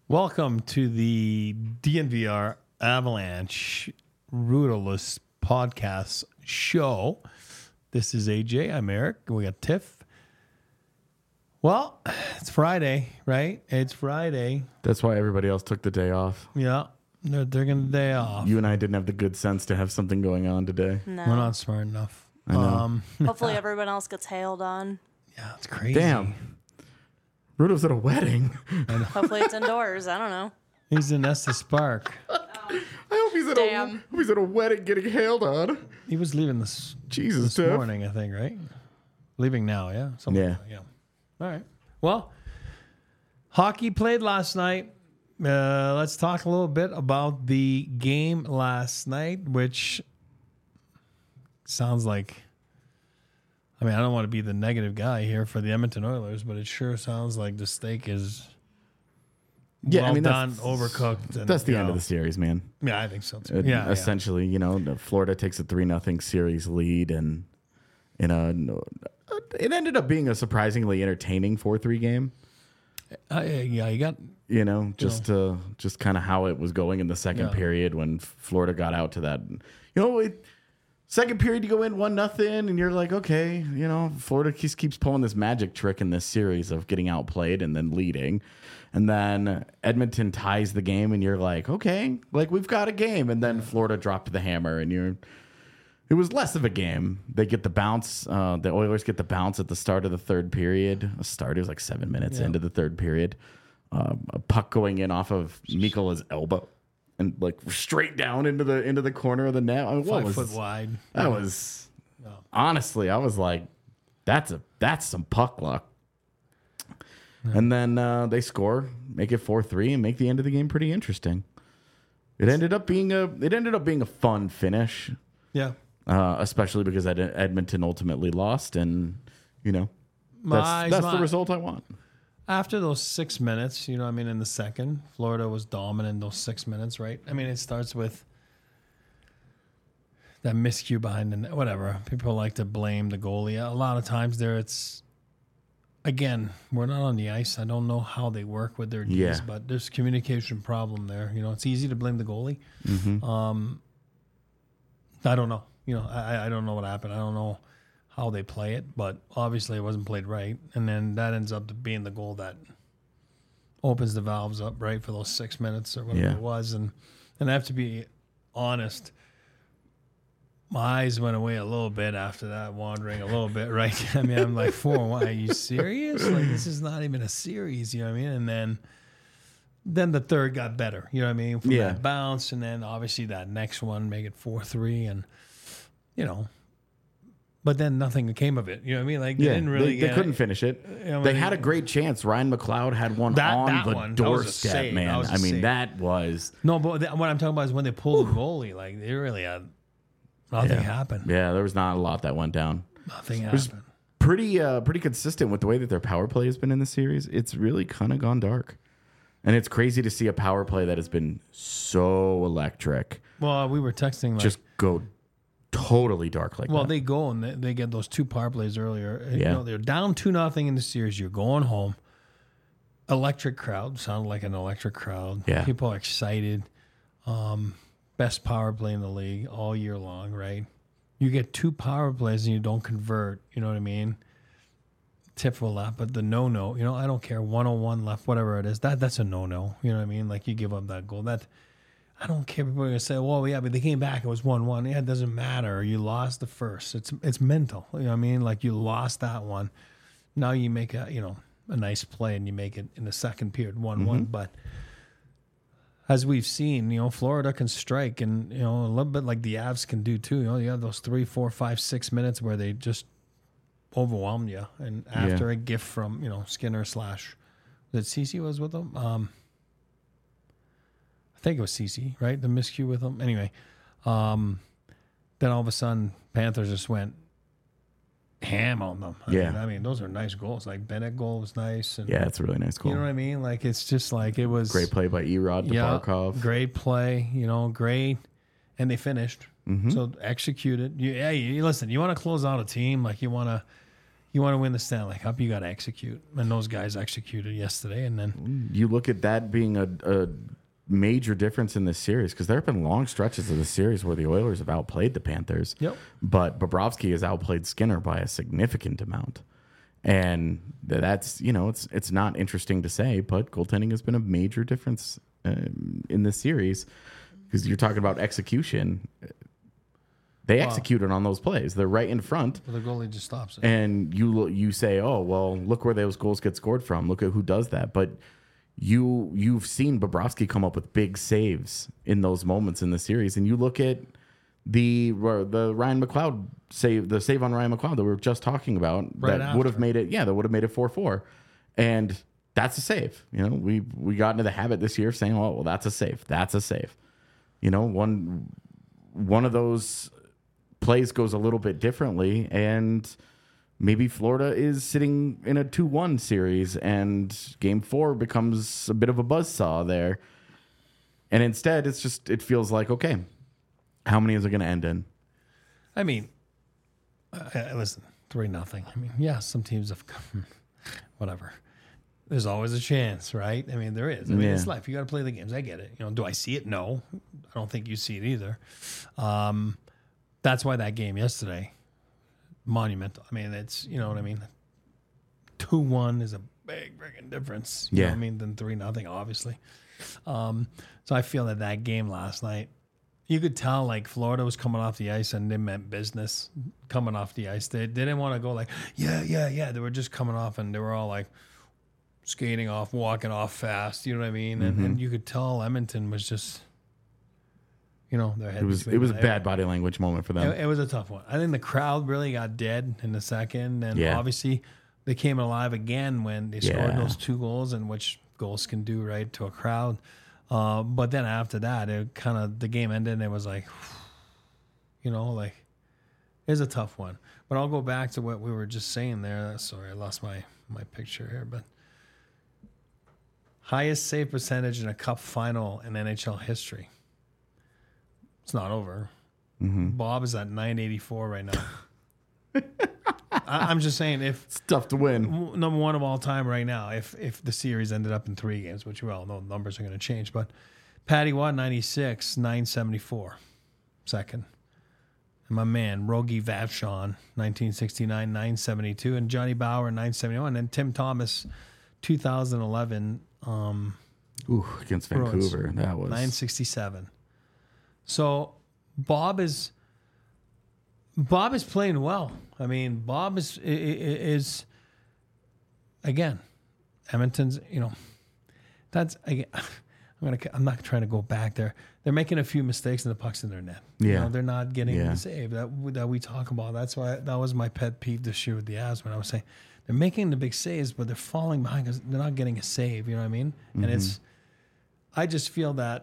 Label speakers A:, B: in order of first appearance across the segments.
A: Welcome to the DNVR Avalanche Rudolus podcast show. This is AJ. I'm Eric. We got Tiff. Well, it's Friday, right? It's Friday.
B: That's why everybody else took the day off.
A: Yeah, they're taking the day off.
B: You and I didn't have the good sense to have something going on today.
C: No.
A: We're not smart enough.
B: I know.
C: Hopefully everyone else gets hailed on.
A: Yeah, it's crazy.
B: Damn. Rudolph's at a wedding.
C: Hopefully it's indoors. I don't know.
A: He's in Estes Park.
B: I hope he's at a wedding getting hailed on.
A: He was leaving this
B: Jesus,
A: morning, I think, right? Leaving now, yeah? Something
B: Yeah.
A: like that, yeah. All right. Well, hockey played last night. Let's talk a little bit about the game last night, which sounds like, I mean, I don't want to be the negative guy here for the Edmonton Oilers, but it sure sounds like the steak is well done, overcooked. And,
B: That's the end of the series, man.
A: Yeah, I think so too. Yeah,
B: Essentially, you know, Florida takes a 3-0 series lead, and it ended up being a surprisingly entertaining 4-3 game.
A: Yeah, you got...
B: You know, just kind of how it was going in the second period when Florida got out to that. You know, second period you go in 1-0 and you're like, okay, you know, Florida keeps pulling this magic trick in this series of getting outplayed and then leading. And then Edmonton ties the game and you're like, okay, like we've got a game. And then Florida dropped the hammer and it was less of a game. They get the bounce. The Oilers get the bounce at the start of the third period. It was like 7 minutes into the third period. A puck going in off of Mikola's elbow and like straight down into the corner of the net. I mean,
A: 5 foot wide.
B: That was honestly, I was like, that's some puck luck. Yeah. And then they score, make it 4-3, and make the end of the game pretty interesting. It ended up being a fun finish.
A: Yeah.
B: Especially because Edmonton ultimately lost, and you know that's the result I want.
A: After those 6 minutes, you know, I mean, in the second, Florida was dominant in those 6 minutes, right? I mean, it starts with that miscue behind the net, whatever. People like to blame the goalie. A lot of times again, we're not on the ice. I don't know how they work with their Ds, but there's a communication problem there. You know, it's easy to blame the goalie. Mm-hmm. I don't know. You know, I don't know what happened. I don't know how they play it, but obviously it wasn't played right. And then that ends up being the goal that opens the valves up, right, for those 6 minutes or whatever it was. And I have to be honest, my eyes went away a little bit after that, wandering a little bit, right? I mean, I'm like, 4-1, are you serious? Like, this is not even a series, you know what I mean? And then the third got better, you know what I mean? From that bounce, and then obviously that next one, make it 4-3, and, you know, but then nothing came of it. You know what I mean? Like they didn't really.
B: They couldn't finish it. You know, they had a great chance. Ryan McLeod had one on the doorstep, man. I mean, that was
A: no. But what I'm talking about is when they pulled the goalie. Like they really had nothing happen.
B: Yeah, there was not a lot that went down.
A: Nothing happened.
B: It was pretty consistent with the way that their power play has been in the series. It's really kind of gone dark, and it's crazy to see a power play that has been so electric.
A: Well, we were texting like
B: just go totally dark like that.
A: Well, they go and they get those 2 power plays earlier. You know, they're down 2-0 in the series. You're going home. Electric crowd. Sounded like an electric crowd.
B: Yeah.
A: People are excited. Best power play in the league all year long, right? You get 2 power plays and you don't convert. You know what I mean? Tip will laugh, but the no-no, you know, I don't care. 101 left, whatever it is. That's a no-no. You know what I mean? Like you give up that goal. I don't care. People are going to say, well, yeah, but they came back. It was 1-1. Yeah, it doesn't matter. You lost the first. It's mental. You know what I mean? Like you lost that one. Now you make a nice play and you make it in the second period, 1-1. Mm-hmm. But as we've seen, you know, Florida can strike and, you know, a little bit like the Avs can do too. You know, you have those 3, 4, 5, 6 minutes where they just overwhelmed you. And after a gift from, you know, Skinner / that Ceci was with them. I think it was Ceci, right? The miscue with them. Anyway, then all of a sudden, Panthers just went ham on them. I mean, those are nice goals. Like Bennett goal was nice. And,
B: it's a really nice goal.
A: You know what I mean? Like it's just like it was
B: great play by Erod to Barkov.
A: Great play. You know, great, and they finished. Mm-hmm. So executed. You listen. You want to close out a team, like you want to. You want to win the Stanley Cup, you got to execute. And those guys executed yesterday. And then
B: You look at that being a major difference in this series because there have been long stretches of the series where the Oilers have outplayed the Panthers.
A: Yep.
B: But Bobrovsky has outplayed Skinner by a significant amount. And that's, it's not interesting to say, but goaltending has been a major difference in this series because you're talking about execution. They executed on those plays. They're right in front.
A: the goalie just stops it.
B: And you say, oh, well, look where those goals get scored from. Look at who does that. But you've seen Bobrovsky come up with big saves in those moments in the series. And you look at the Ryan McLeod save, the save on Ryan McLeod that we were just talking about, that would have made it 4-4. And that's a save. We got into the habit this year of saying, oh, well, that's a save. That's a save. One of those plays goes a little bit differently, and maybe Florida is sitting in a 2-1 series, and Game 4 becomes a bit of a buzzsaw there. And instead, it feels like, okay, how many is it going to end in?
A: I mean, listen, 3-0. I mean, yeah, some teams have come, whatever. There's always a chance, right? I mean, there is. I mean, it's life. You got to play the games. I get it. Do I see it? No. I don't think you see it either. That's why that game yesterday, monumental. I mean, it's, you know what I mean? 2-1 is a big freaking difference. You know what I mean? Than 3-0, obviously. So I feel that game last night, you could tell like Florida was coming off the ice and they meant business coming off the ice. They didn't want to go like, yeah. They were just coming off and they were all like skating off, walking off fast. You know what I mean? And you could tell Edmonton was just, their head.
B: It was a bad body language moment for them.
A: It was a tough one. I think the crowd really got dead in the second. And obviously they came alive again when they scored those 2 goals, and which goals can do, right, to a crowd. But then after that, it kind of, the game ended and it was like, it was a tough one. But I'll go back to what we were just saying there. Sorry, I lost my picture here. But highest save percentage in a cup final in NHL history. It's not over. Bob is at 984 right now. I'm just saying, if
B: it's tough to win,
A: number one of all time right now, if the series ended up in 3 games, which we all know numbers are going to change, but Patty Watt 96, 974, second. And my man Rogie Vachon 1969, 972, and Johnny Bauer 971, and Tim Thomas 2011
B: against Vancouver. That was
A: 967. So Bob is playing well. I mean, Bob is again, Edmonton's. That's again. I'm not trying to go back there. They're making a few mistakes and the puck's in their net.
B: Yeah,
A: they're not getting the save that we talk about. That's why that was my pet peeve this year with the Avs when I was saying they're making the big saves, but they're falling behind because they're not getting a save. You know what I mean? And I just feel that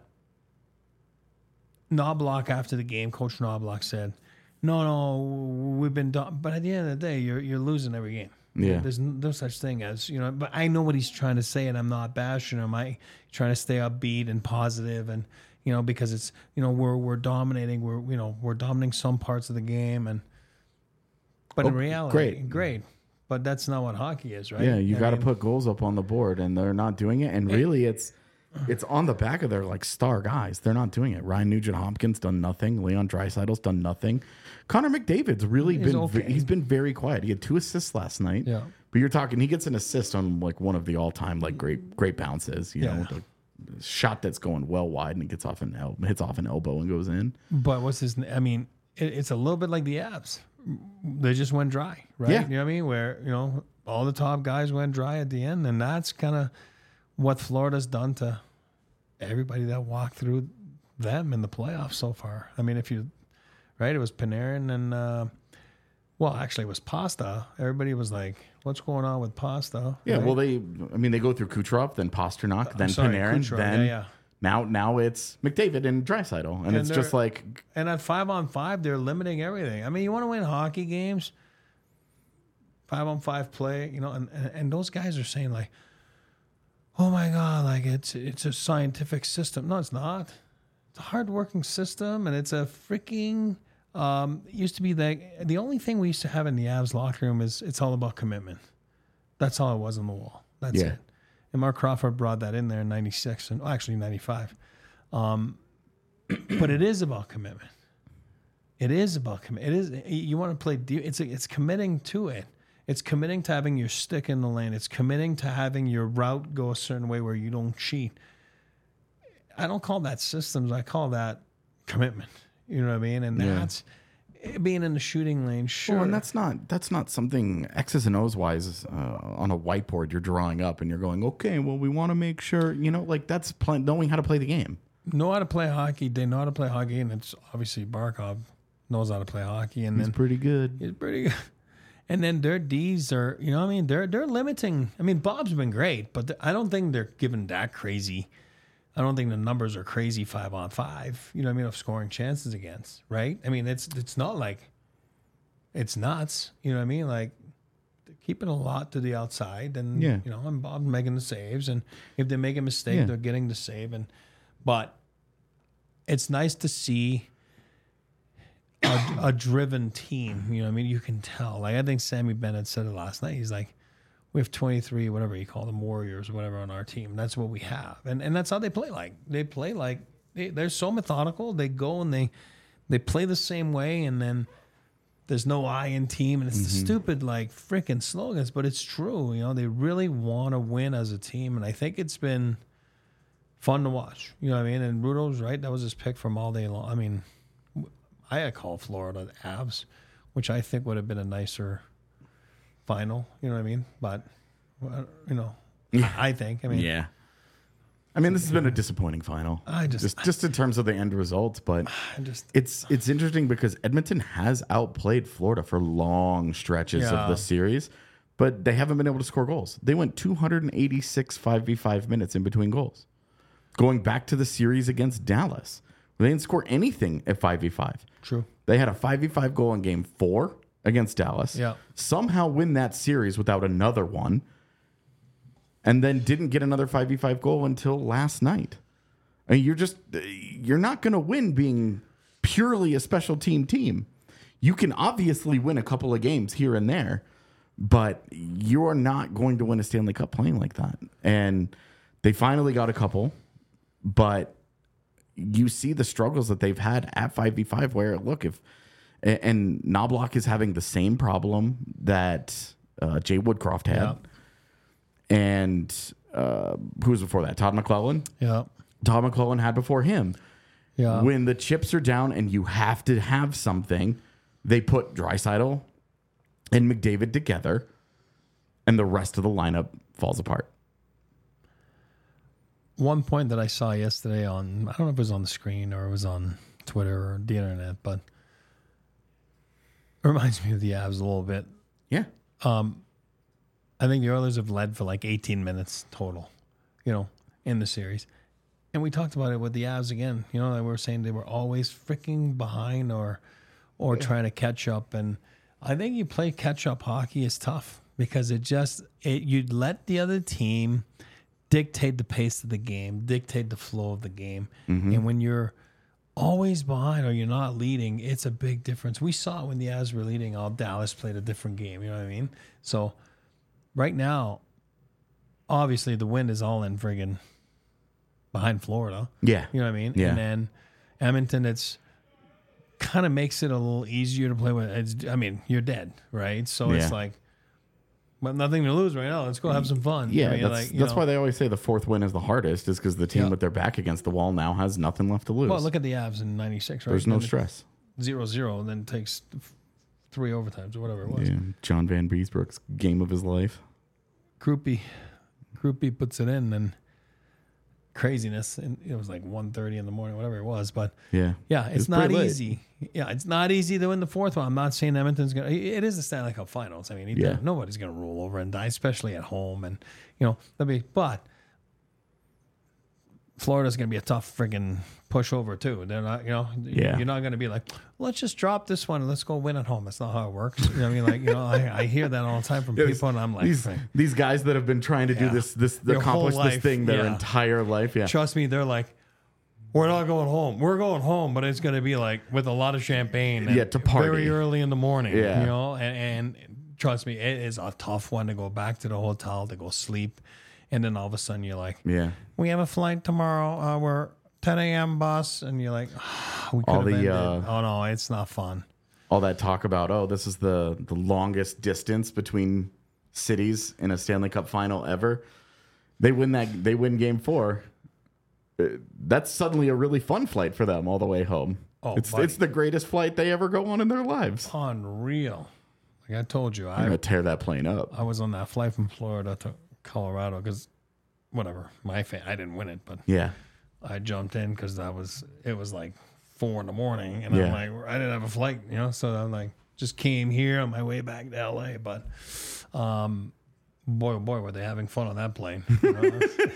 A: Knobloch, after the game, Coach Knobloch said, no, we've been done. But at the end of the day, you're losing every game.
B: Yeah.
A: There's no such thing as, but I know what he's trying to say, and I'm not bashing him. I trying to stay upbeat and positive, and, because it's, we're dominating. We're dominating some parts of the game, but in reality, great. But that's not what hockey is, right?
B: Yeah, you got to put goals up on the board, and they're not doing it. And really, it's on the back of their star guys. They're not doing it. Ryan Nugent-Hopkins done nothing. Leon Draisaitl's done nothing. Connor McDavid's really he's been very quiet. He had 2 assists last night. Yeah. But you're talking, he gets an assist on one of the all-time great bounces. The shot that's going well wide and it hits off an elbow and goes in.
A: But it's a little bit like the Avs. They just went dry, right?
B: Yeah.
A: You know what I mean? Where all the top guys went dry at the end, and that's kind of what Florida's done to everybody that walked through them in the playoffs so far. I mean, it was Panarin and, actually it was Pasta. Everybody was like, what's going on with Pasta?
B: Yeah,
A: right?
B: well, they go through Kucherov, then Pasternak, then Panarin, Kucherov, then now it's McDavid and Draisaitl. And it's just like...
A: And at 5-on-5, they're limiting everything. I mean, you want to win hockey games, 5-on-5 play, and those guys are saying like, oh my God, it's a scientific system. No, it's not. It's a hardworking system, and it's a freaking It used to be that the only thing we used to have in the Avs locker room is it's all about commitment. That's all it was on the wall. That's it. And Mark Crawford brought that in there in 96 and actually 95. But it is about commitment. It is about commitment. It is, you want to play, it's committing to it. It's committing to having your stick in the lane. It's committing to having your route go a certain way where you don't cheat. I don't call that systems. I call that commitment. You know what I mean? And that's being in the shooting lane. Sure.
B: Well, and that's not something X's and O's wise on a whiteboard you're drawing up and you're going, okay, well, we want to make sure, like that's knowing how to play the game.
A: Know how to play hockey. They know how to play hockey, and it's obviously Barkov knows how to play hockey. And
B: he's pretty good.
A: He's pretty good. And then their D's are, they're limiting. I mean, Bob's been great, but I don't think they're giving that crazy. I don't think the numbers are crazy 5-on-5, of scoring chances against, right? I mean, it's not like it's nuts, like they're keeping a lot to the outside and, and Bob's making the saves. And if they make a mistake, they're getting the save. But it's nice to see a driven team, you can tell. Like, I think Sammy Bennett said it last night. He's like, we have 23, whatever you call them, warriors or whatever on our team. That's what we have. And that's how they play like. They play like they're so methodical. They go and they play the same way, and then there's no I in team. And it's the stupid, like, freaking slogans, but it's true. They really want to win as a team. And I think it's been fun to watch. You know what I mean? And Rudo's right. That was his pick from all day long. I mean, I had called Florida the Avs, which I think would have been a nicer final, you know what I mean? But, I think. I mean,
B: this has been a disappointing final. Just in terms of the end results, but it's interesting because Edmonton has outplayed Florida for long stretches of the series, but they haven't been able to score goals. They went 286 5v5 minutes in between goals. Going back to the series against Dallas, they didn't score anything at 5v5.
A: True.
B: They had a 5v5 goal in game 4 against Dallas.
A: Yeah.
B: Somehow win that series without another one. And then didn't get another 5v5 goal until last night. I mean, you're not going to win being purely a special team. You can obviously win a couple of games here and there, but you're not going to win a Stanley Cup playing like that. And they finally got a couple, but you see the struggles that they've had at 5v5 where, look, and Knobloch is having the same problem that Jay Woodcroft had.
A: Yeah.
B: And who was before that? Todd McClellan?
A: Yeah.
B: Todd McClellan had before him.
A: Yeah.
B: When the chips are down and you have to have something, they put Draisaitl and McDavid together, and the rest of the lineup falls apart.
A: One point that I saw yesterday I don't know if it was on the screen or it was on Twitter or the internet, but it reminds me of the Avs a little bit.
B: Yeah.
A: I think the Oilers have led for like 18 minutes total, in the series. And we talked about it with the Avs again. They were saying they were always freaking behind or trying to catch up. And I think you play catch-up hockey is tough because you'd let the other team dictate the pace of the game, dictate the flow of the game. Mm-hmm. And when you're always behind or you're not leading, it's a big difference. We saw it when the Avs were leading. Dallas played a different game. You know what I mean? So right now, obviously the wind is all in friggin' behind Florida.
B: Yeah.
A: You know what I mean?
B: Yeah.
A: And then Edmonton, it's kind of makes it a little easier to play with. You're dead, right? So it's like, well, nothing to lose right now. Let's go have some fun.
B: Yeah, that's why they always say the fourth win is the hardest, is because the team with their back against the wall now has nothing left to lose.
A: Well, look at the Avs in 96, right?
B: There's no stress.
A: 0-0, and then it takes 3 overtimes or whatever it was.
B: Yeah, John Van Beesbrook's game of his life.
A: Groupie puts it in, and craziness. And it was like 1:30 in the morning, whatever it was. But it's not easy. Yeah, it's not easy to win the fourth one. I'm not saying Edmonton's going to. It is the Stanley Cup Finals. I mean, nobody's going to roll over and die, especially at home. And, but Florida's going to be a tough friggin' pushover, too. They're not, you're not going to be like, let's just drop this one and let's go win at home. That's not how it works. You know what I mean? I hear that all the time from people, and I'm like,
B: these guys that have been trying to do this accomplish this thing their entire life. Yeah.
A: Trust me, they're like, we're not going home. We're going home, but it's going to be like with a lot of champagne. And
B: to party.
A: very early in the morning.
B: Yeah.
A: You know, and trust me, it is a tough one to go back to the hotel to go sleep, and then all of a sudden you're like,
B: Yeah.
A: we have a flight tomorrow. We're 10 a.m. bus, and you're like, we could have ended. Oh no, it's not fun.
B: All that talk about, this is the longest distance between cities in a Stanley Cup final ever. They win game 4. That's suddenly a really fun flight for them all the way home.
A: Oh,
B: it's the greatest flight they ever go on in their lives.
A: Unreal. Like I told you,
B: I'm gonna tear that plane up.
A: I was on that flight from Florida to Colorado because, whatever, I didn't win it, but
B: Yeah.
A: I jumped in because it was like 4 a.m, and
B: Yeah.
A: I'm like, I didn't have a flight, you know, so I'm like, just came here on my way back to LA, but boy, oh boy, were they having fun on that plane. You know?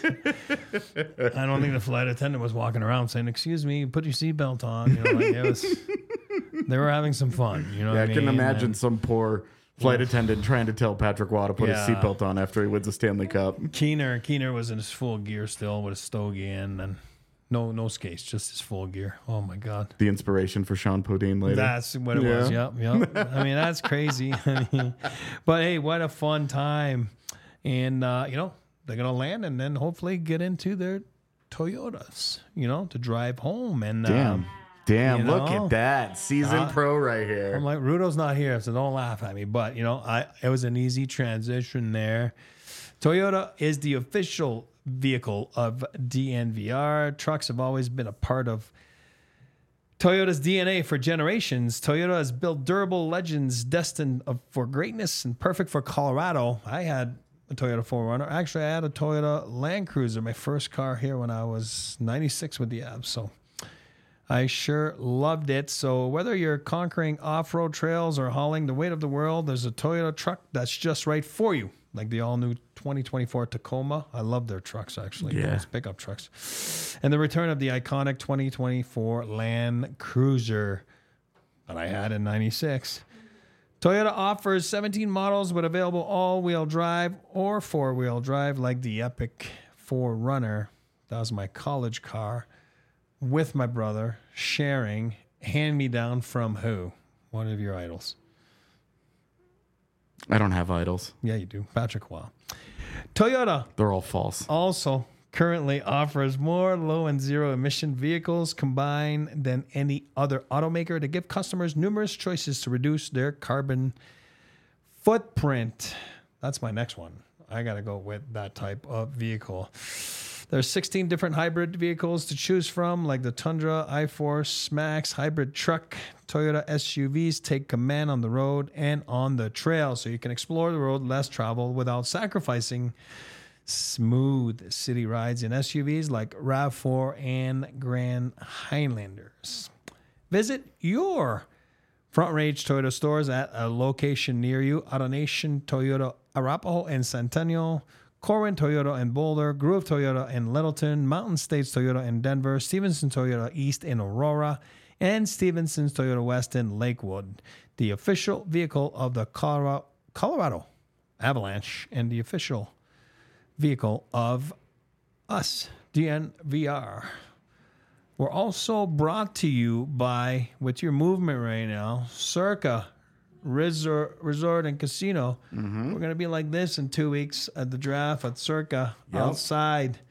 A: I don't think the flight attendant was walking around saying, excuse me, put your seatbelt on. You know, like they were having some fun. You know what I mean?
B: I can imagine some poor flight attendant trying to tell Patrick Waugh to put his seatbelt on after he wins a Stanley Cup.
A: Keener was in his full gear still with a stogie in, and no skates, just his full gear. Oh my God.
B: The inspiration for Sean Podine later.
A: That's what it was. Yep. I mean, that's crazy. But hey, what a fun time. And, they're going to land and then hopefully get into their Toyotas, to drive home. And
B: Damn, look at that. Seasoned pro right here.
A: I'm like, Rudo's not here, so don't laugh at me. But, it was an easy transition there. Toyota is the official vehicle of DNVR. Trucks have always been a part of Toyota's DNA for generations. Toyota has built durable legends destined for greatness and perfect for Colorado. I had a Toyota 4Runner. Actually, I had a Toyota Land Cruiser, my first car here when I was 96 with the Avs. So I sure loved it. So whether you're conquering off-road trails or hauling the weight of the world, there's a Toyota truck that's just right for you. Like the all-new 2024 Tacoma. I love their trucks, actually.
B: Yeah.
A: Those pickup trucks. And the return of the iconic 2024 Land Cruiser that I had in 96. Toyota offers 17 models with available all-wheel drive or four-wheel drive, like the epic 4Runner. That was my college car with my brother, sharing, hand-me-down from who? One of your idols.
B: I don't have idols.
A: Yeah, you do. Patrick Waugh. Toyota
B: They're all false.
A: also currently offers more low and zero emission vehicles combined than any other automaker to give customers numerous choices to reduce their carbon footprint. That's my next one. I got to go with that type of vehicle. There's 16 different hybrid vehicles to choose from, like the Tundra, iForce, Max, hybrid truck. Toyota SUVs take command on the road and on the trail, so you can explore the road less traveled without sacrificing smooth city rides in SUVs like RAV4 and Grand Highlanders. Visit your Front Range Toyota stores at a location near you. AutoNation Toyota Arapahoe and Centennial, Corwin Toyota in Boulder, Groove Toyota in Littleton, Mountain States Toyota in Denver, Stevenson Toyota East in Aurora, and Stevenson's Toyota West in Lakewood. The official vehicle of the Colorado Avalanche and the official vehicle of us, DNVR. We're also brought to you by, with your movement right now, Circa Resort and Casino. Mm-hmm. We're going to be like this in 2 weeks at the draft at Circa, outside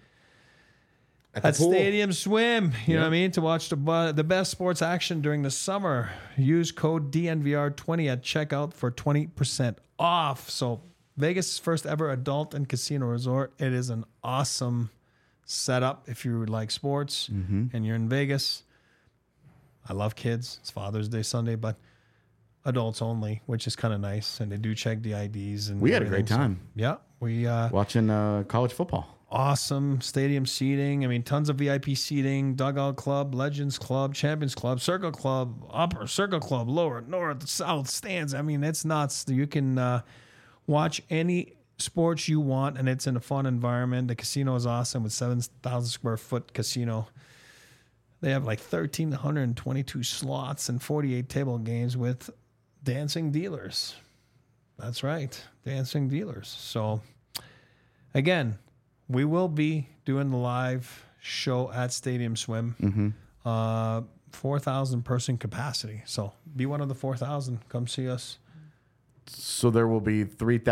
A: at Stadium Swim. You know what I mean? To watch the best sports action during the summer. Use code DNVR20 at checkout for 20% off. So Vegas' first ever adult and casino resort. It is an awesome setup if you like sports and you're in Vegas. I love kids. It's Father's Day Sunday, but adults only, which is kind of nice. And they do check the IDs. And
B: we had a great time.
A: So, yeah. We
B: watching college football.
A: Awesome stadium seating. I mean, tons of VIP seating, Dugout Club, Legends Club, Champions Club, Circle Club, Upper, Circle Club, Lower, North, South, Stands. I mean, it's nuts. You can watch any sports you want, and it's in a fun environment. The casino is awesome with 7,000 square foot casino. They have like 1,322 slots and 48 table games with dancing dealers. That's right, dancing dealers. So, again, we will be doing the live show at Stadium Swim. 4,000 person capacity. So be one of the 4,000. Come see us.
B: So there will be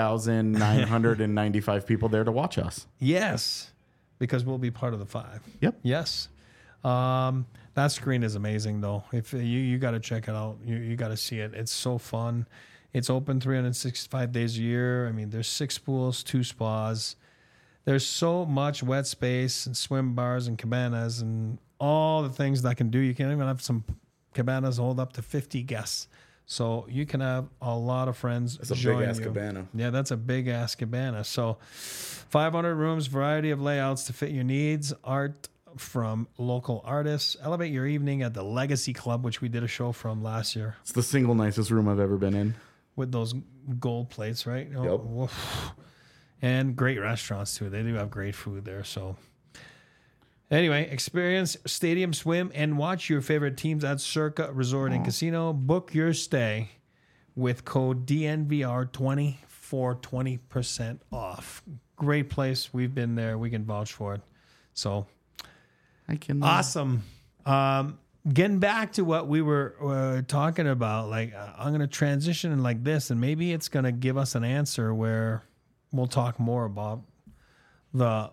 B: 3,995 people there to watch us.
A: Yes, because we'll be part of the 5.
B: Yep.
A: Yes. That screen is amazing, though. If you got to check it out, you got to see it. It's so fun. It's open 365 days a year. I mean, there's 6 pools, 2 spas. There's so much wet space and swim bars and cabanas and all the things that can do. You can even have some cabanas hold up to 50 guests. So you can have a lot of friends.
B: That's a
A: join
B: big ass
A: you.
B: cabana.
A: Yeah, that's a big ass cabana. So 500 rooms, variety of layouts to fit your needs, art from local artists. Elevate your evening at the Legacy Club, which we did a show from last year
B: It's the single nicest room I've ever been in.
A: with those gold plates, right?
B: Yep.
A: Woof. And great restaurants too. They do have great food there. So anyway, experience Stadium Swim and watch your favorite teams at Circa Resort and Casino. Book your stay with code DNVR20 for 20% off. Great place. We've been there. We can vouch for it. So
B: I can.
A: awesome. Getting back to what we were talking about, like I'm going to transition like this, and maybe it's going to give us an answer where we'll talk more about the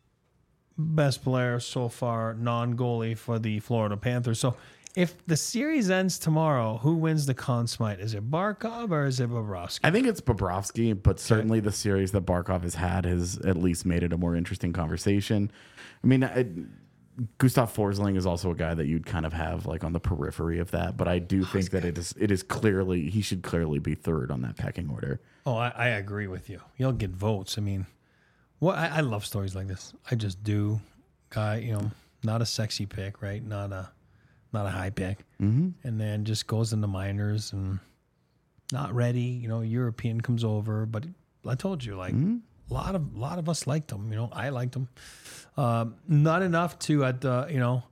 A: best player so far, non-goalie for the Florida Panthers. So if the series ends tomorrow, who wins the Conn Smythe? Is it Barkov or is it Bobrovsky?
B: I think it's Bobrovsky, but certainly the series that Barkov has had has at least made it a more interesting conversation. I mean, Gustav Forsling is also a guy that you'd kind of have like on the periphery of that, but I do think that it is clearly, he should clearly be third on that pecking order.
A: Oh, I agree with you. He'll get votes. I mean, I love stories like this. I just do. Guy, not a sexy pick, right? Not a high pick, and then just goes into minors and not ready. European comes over, but I told you, like a lot of us liked him. I liked him. Not enough to at the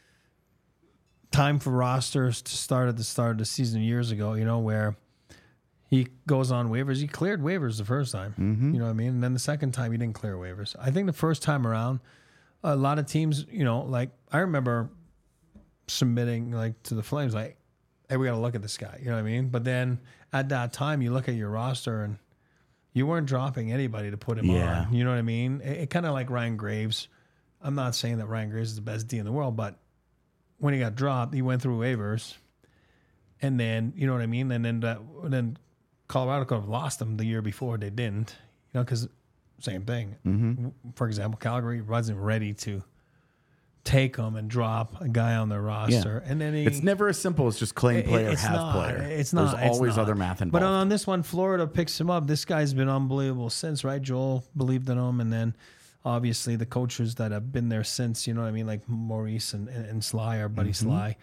A: time for rosters to start at the start of the season years ago. Where he goes on waivers. He cleared waivers the first time. You know what I mean? And then the second time he didn't clear waivers. I think the first time around, a lot of teams, like I remember submitting like to the Flames, like, hey, we got to look at this guy. You know what I mean? But then at that time, you look at your roster and you weren't dropping anybody to put him on. You know what I mean? It kind of like Ryan Graves. I'm not saying that Ryan Graves is the best D in the world, but when he got dropped, he went through waivers. And then, you know what I mean? And then Colorado could have lost him the year before. They didn't, because same thing. For example, Calgary wasn't ready to take him and drop a guy on their roster. And then
B: it's never as simple as just claim player, have player.
A: It's not.
B: There's always other math involved.
A: But on this one, Florida picks him up. This guy's been unbelievable since, right? Joel believed in him. And then obviously the coaches that have been there since, you know what I mean? Like Maurice and Sly, our buddy Sly.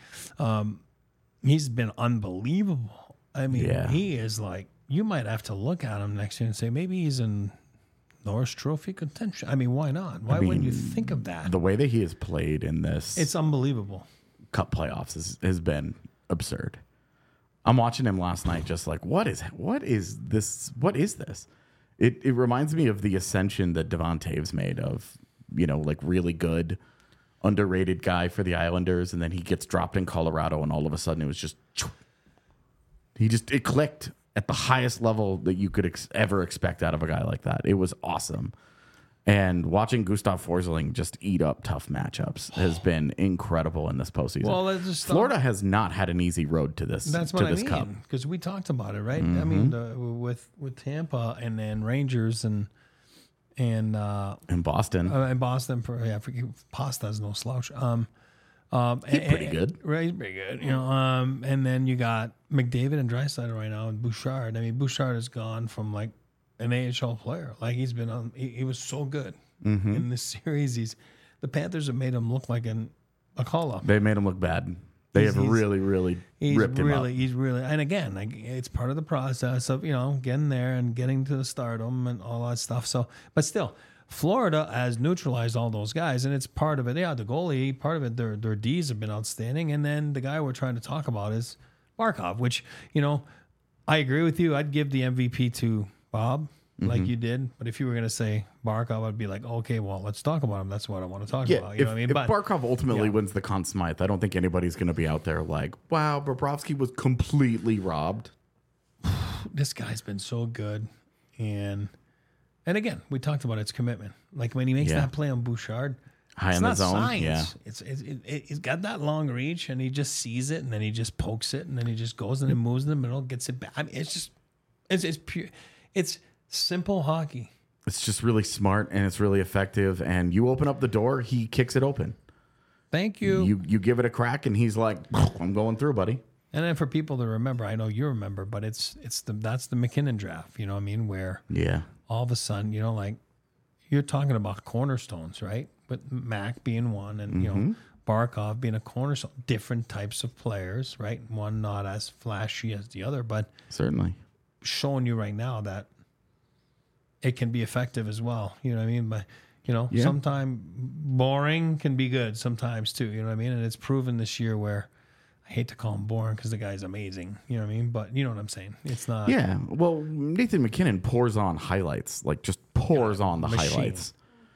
A: He's been unbelievable. I mean, he is like, you might have to look at him next year and say, maybe he's in Norris Trophy contention. I mean, why not? Why wouldn't you think of that?
B: The way that he has played in this,
A: it's unbelievable.
B: Cup playoffs has been absurd. I'm watching him last night, just like, what is this? What is this? It reminds me of the ascension that Devon Taves made of, like really good, underrated guy for the Islanders, and then he gets dropped in Colorado, and all of a sudden it was just, it clicked at the highest level that you could ever expect out of a guy like that. It was awesome. And watching Gustav Forsling just eat up tough matchups has been incredible in this postseason.
A: Well,
B: Florida has not had an easy road to this.
A: That's what I mean, because we talked about it, right? I mean, with Tampa and then Rangers and
B: in Boston,
A: Pasta's no slouch.
B: he's pretty good.
A: Right, he's pretty good. And then you got McDavid and Draisaitl right now, and Bouchard. I mean, Bouchard has gone from like an AHL player. Like he's been on. He was so good in this series. The Panthers have made him look like a call up.
B: They made him look bad. They have really ripped him up.
A: He's really, and again, like it's part of the process of getting there and getting to the stardom and all that stuff. So, but still, Florida has neutralized all those guys, and it's part of it. Yeah, the goalie, part of it, their Ds have been outstanding, and then the guy we're trying to talk about is Barkov, which I agree with you. I'd give the MVP to Bob, like you did. But if you were going to say Barkov, I'd be like, okay, well, let's talk about him. That's what I want to talk about. You know what I mean?
B: If
A: But
B: Barkov ultimately wins the Conn Smythe, I don't think anybody's going to be out there like, wow, Bobrovsky was completely robbed.
A: this guy's been so good. And again, we talked about its commitment. Like when he makes that play on Bouchard,
B: High
A: it's
B: in the
A: not
B: zone.
A: science.
B: Yeah.
A: He's got that long reach, and he just sees it, and then he just pokes it, and then he just goes and then moves in the middle, gets it back. I mean, it's pure. It's simple hockey.
B: It's just really smart and it's really effective. And you open up the door, he kicks it open.
A: Thank you.
B: You give it a crack, and he's like, I'm going through, buddy.
A: And then for people to remember, I know you remember, but that's the McKinnon draft. You know what I mean? Where all of a sudden, you know, like you're talking about cornerstones, right? With Mac being one, and you know Barkov being a cornerstone. Different types of players, right? One not as flashy as the other, but
B: Certainly.
A: showing you right now that it can be effective as well. You know what I mean? But you know, sometimes boring can be good sometimes too. You know what I mean? And it's proven this year where I hate to call him boring because the guy's amazing. You know what I mean? But you know what I'm saying? It's not.
B: Yeah. Well, Nathan McKinnon pours on highlights, like just pours on the
A: machine.
B: highlights.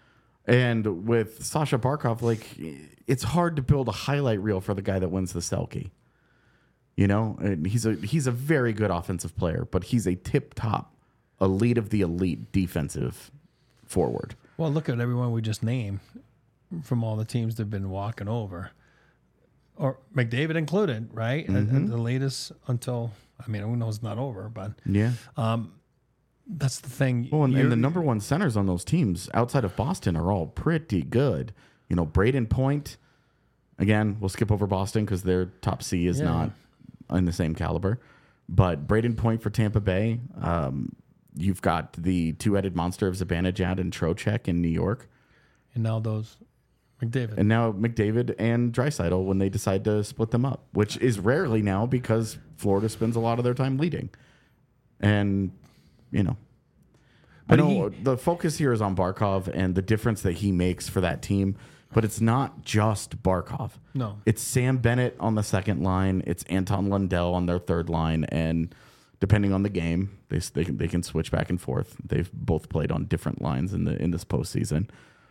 B: And with Sasha Barkov, like it's hard to build a highlight reel for the guy that wins the Selke. You know, and he's a very good offensive player, but he's a tip-top, elite of the elite defensive forward.
A: Well, look at everyone we just named from all the teams that've been walking over, or McDavid included, right? And the latest until, I mean, who knows, not over, but
B: Yeah.
A: that's the thing.
B: Well, and the number one centers on those teams outside of Boston are all pretty good. You know, Braden Point, again, we'll skip over Boston because their top C is not in the same caliber. But Braden Point for Tampa Bay, you've got the two-headed monster of Zibanejad and Trocheck in New York.
A: And now those McDavid.
B: And now McDavid and Draisaitl when they decide to split them up, which is rarely now because Florida spends a lot of their time leading. And, you know,
A: But
B: I know the focus here is on Barkov and the difference that he makes for that team, but it's not just Barkov.
A: No.
B: It's Sam Bennett on the second line. It's Anton Lundell on their third line. And depending on the game, they can switch back and forth. They've both played on different lines in this postseason.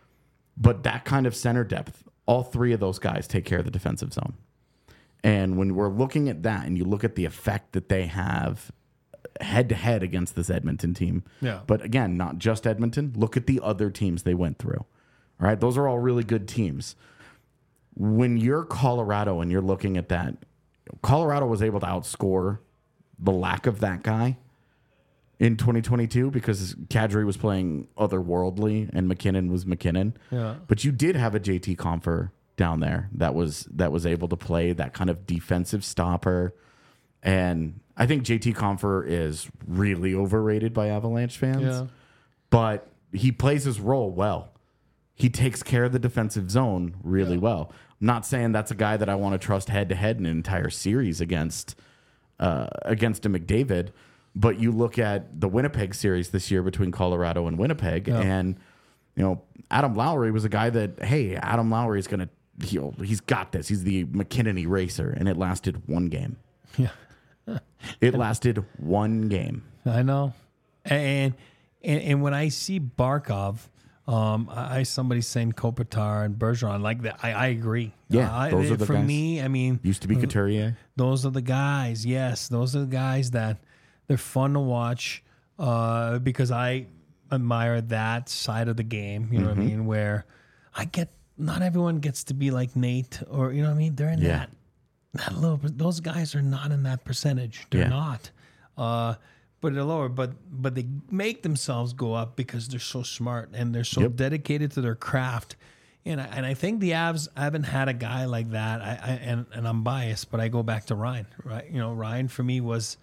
B: But that kind of center depth, all three of those guys take care of the defensive zone. And when we're looking at that and you look at the effect that they have head-to-head against this Edmonton team.
A: Yeah.
B: But again, not just Edmonton. Look at the other teams they went through. All right? Those are all really good teams. When you're Colorado and you're looking at that, Colorado was able to outscore the lack of that guy in 2022 because Kadri was playing otherworldly and McKinnon was McKinnon.
A: Yeah.
B: But you did have a JT Compher down there that was able to play that kind of defensive stopper. And I think JT Compher is really overrated by Avalanche fans.
A: Yeah.
B: But he plays his role well. He takes care of the defensive zone really well. I'm not saying that's a guy that I want to trust head-to-head in an entire series against a McDavid. But you look at the Winnipeg series this year between Colorado and Winnipeg, and you know Adam Lowry was a guy that, hey, Adam Lowry is going to heal. He's got this. He's the McKinnon eraser, and it lasted one game.
A: Yeah.
B: It lasted one game.
A: I know. And when I see Barkov, somebody saying Kopitar and Bergeron like that. I agree.
B: Yeah, those are the
A: for
B: guys.
A: me. I mean,
B: Used to be Couturier.
A: those are the guys. Yes, those are the guys that they're fun to watch because I admire that side of the game. You know what I mean? Where not everyone gets to be like Nate or you know what I mean. They're in that little. Those guys are not in that percentage. They're not. But they're lower. But they make themselves go up because they're so smart and they're so dedicated to their craft. And I think the Avs haven't had a guy like that. And I'm biased, but I go back to Ryan. Right? You know, Ryan for me was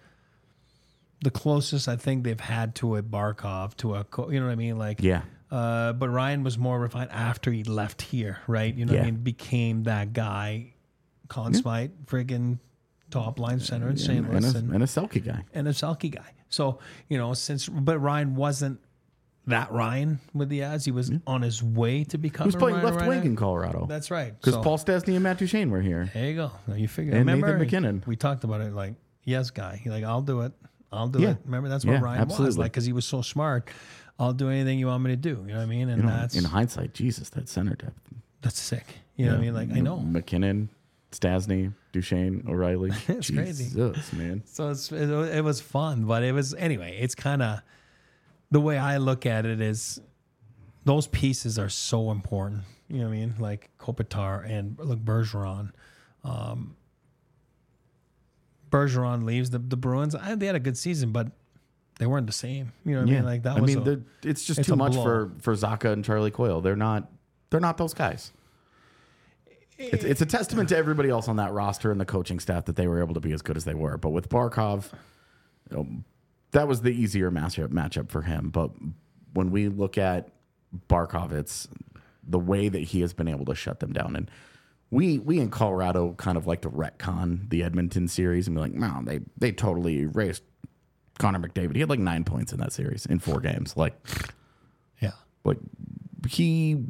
A: the closest I think they've had to a Barkov, you know what I mean? Like, but Ryan was more refined after he left here, right? You know what I mean? Became that guy, Conn Smythe, friggin' top line center in St. Louis.
B: And a Selke guy.
A: And a Selke guy. So, you know, but Ryan wasn't that Ryan with the Avs. He was on his way to becoming
B: He was playing
A: Ryan
B: left wing in Colorado.
A: That's right.
B: Because
A: So,
B: Paul Stastny and Matt Duchene were here.
A: there you go. Now you figure.
B: And
A: Remember,
B: Nathan McKinnon.
A: we talked about it like, yes, guy. He's like, I'll do it. I'll do it. Remember, that's what Ryan was
B: absolutely.
A: like, because he was so smart. I'll do anything you want me to do. You know what I mean? And that's
B: in hindsight, Jesus, that center depth.
A: that's sick. You know what I mean? Like, I know.
B: McKinnon, Stasny, Duchesne, O'Reilly.
A: It's crazy.
B: Jesus, man.
A: So it was fun, but it was anyway. It's kind of the way I look at it is those pieces are so important. You know what I mean? Like Kopitar and look Bergeron. Bergeron leaves the Bruins. They had a good season, but they weren't the same. You know what I mean? Like that was.
B: It's just too much for Zacha and Charlie Coyle. They're not those guys. It's a testament to everybody else on that roster and the coaching staff that they were able to be as good as they were. But with Barkov, that was the easier matchup for him. But when we look at Barkov, it's the way that he has been able to shut them down. And we in Colorado kind of like to retcon the Edmonton series and be like, no, they totally erased Connor McDavid. He had like 9 points in that series in 4 games. Like he,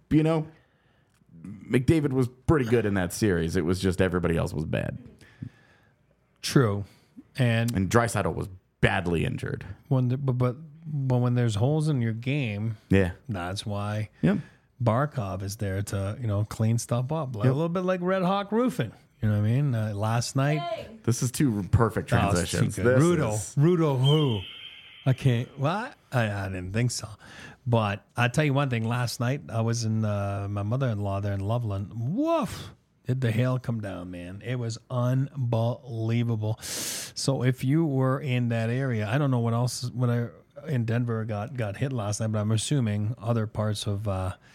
B: McDavid was pretty good in that series. It was just everybody else was bad.
A: True. And
B: Draisaitl was badly injured.
A: But when there's holes in your game, that's why Barkov is there to clean stuff up, like, a little bit like Red Hawk Roofing. You know what I mean? Last night,
B: this is 2 perfect transitions.
A: Rudo, who? I can't. What? I didn't think so. But I tell you one thing. Last night I was in my mother-in-law there in Loveland. Woof! Did the hail come down, man? It was unbelievable. So if you were in that area, I don't know what else in Denver got hit last night, but I'm assuming other parts of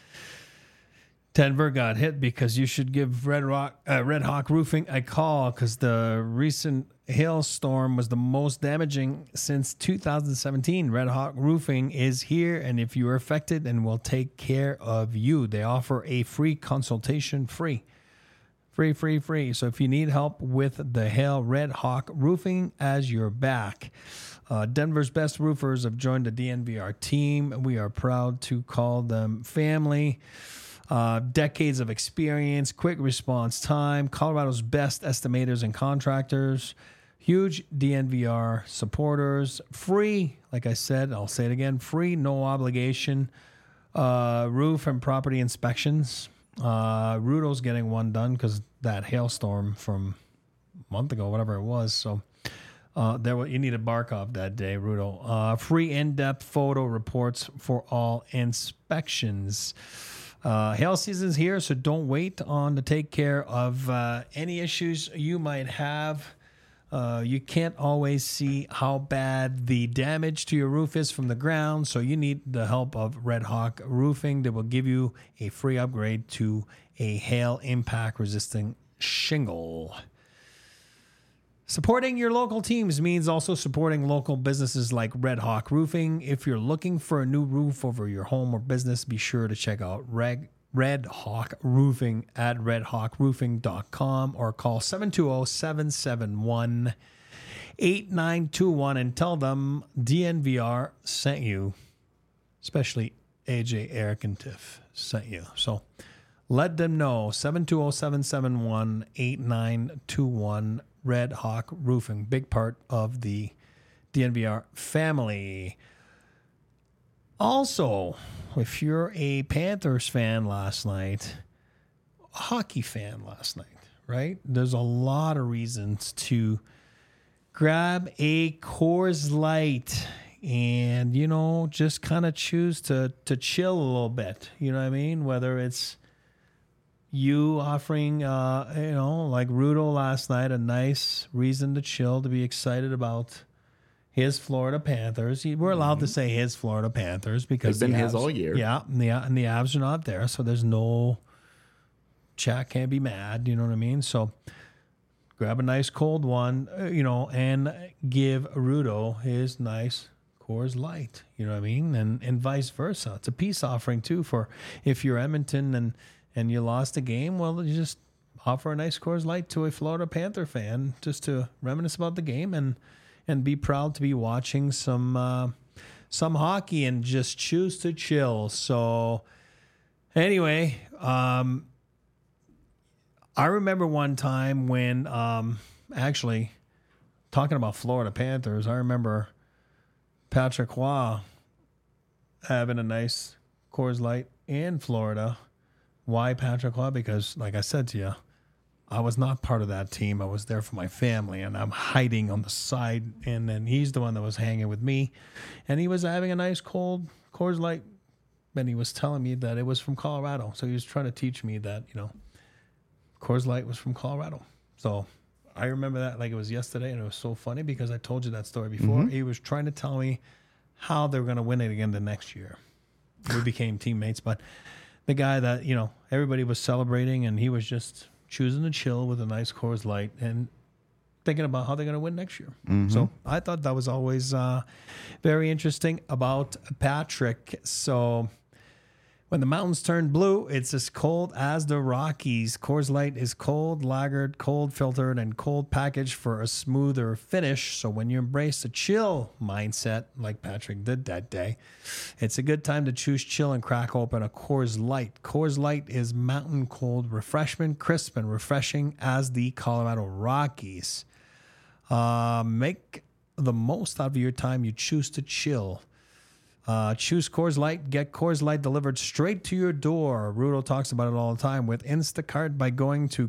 A: Denver got hit, because you should give Red Hawk Roofing a call, because the recent hailstorm was the most damaging since 2017. Red Hawk Roofing is here, and if you are affected, and will take care of you. They offer a free consultation, free. So if you need help with the hail, Red Hawk Roofing as your back. Denver's best roofers have joined the DNVR team. We are proud to call them family. Decades of experience, quick response time, Colorado's best estimators and contractors, huge DNVR supporters, free, like I said, I'll say it again, free, no obligation, roof and property inspections. Rudo's getting one done because that hailstorm from a month ago, whatever it was. So you needed Barkov that day, Rudo. Free in-depth photo reports for all inspections. Hail season's here, so don't wait on to take care of any issues you might have. You can't always see how bad the damage to your roof is from the ground, so you need the help of Red Hawk Roofing. They will give you a free upgrade to a hail impact resistant shingle. Supporting your local teams means also supporting local businesses like Red Hawk Roofing. If you're looking for a new roof over your home or business, be sure to check out Red Hawk Roofing at redhawkroofing.com or call 720-771-8921 and tell them DNVR sent you, especially AJ, Eric, and Tiff sent you. So let them know, 720-771-8921, Red Hawk Roofing, big part of the DNVR family. Also, if you're a Panthers fan last night, a hockey fan last night, right? There's a lot of reasons to grab a Coors Light and, just kind of choose to chill a little bit. You know what I mean? Whether it's you offering, like Rudo last night, a nice reason to chill, to be excited about his Florida Panthers. We're allowed to say his Florida Panthers because
B: they've been his all year.
A: Yeah, and the Avs are not there, so there's no chat. Can't be mad. You know what I mean? So grab a nice cold one, and give Rudo his nice Coors Light. You know what I mean? And vice versa. It's a peace offering too for if you're Edmonton and you lost a game. Well, you just offer a nice Coors Light to a Florida Panther fan just to reminisce about the game and be proud to be watching some hockey and just choose to chill. So anyway, I remember one time when actually talking about Florida Panthers, I remember Patrick Roy having a nice Coors Light in Florida. Why Patrick Roy? Because, like I said to you, I was not part of that team. I was there for my family, and I'm hiding on the side. And then he's the one that was hanging with me, and he was having a nice cold Coors Light. And he was telling me that it was from Colorado. So he was trying to teach me that, Coors Light was from Colorado. So I remember that like it was yesterday, and it was so funny because I told you that story before. He was trying to tell me how they were going to win it again the next year. We became teammates, but the guy that, everybody was celebrating, and he was just choosing to chill with a nice Coors Light and thinking about how they're going to win next year. So I thought that was always very interesting about Patrick. So when the mountains turn blue, it's as cold as the Rockies. Coors Light is cold lagered, cold filtered, and cold packaged for a smoother finish. So when you embrace a chill mindset, like Patrick did that day, it's a good time to choose chill and crack open a Coors Light. Coors Light is mountain cold refreshment, crisp and refreshing as the Colorado Rockies. Make the most out of your time you choose to chill. Choose Coors Light. Get Coors Light delivered straight to your door. Rudo talks about it all the time with Instacart by going to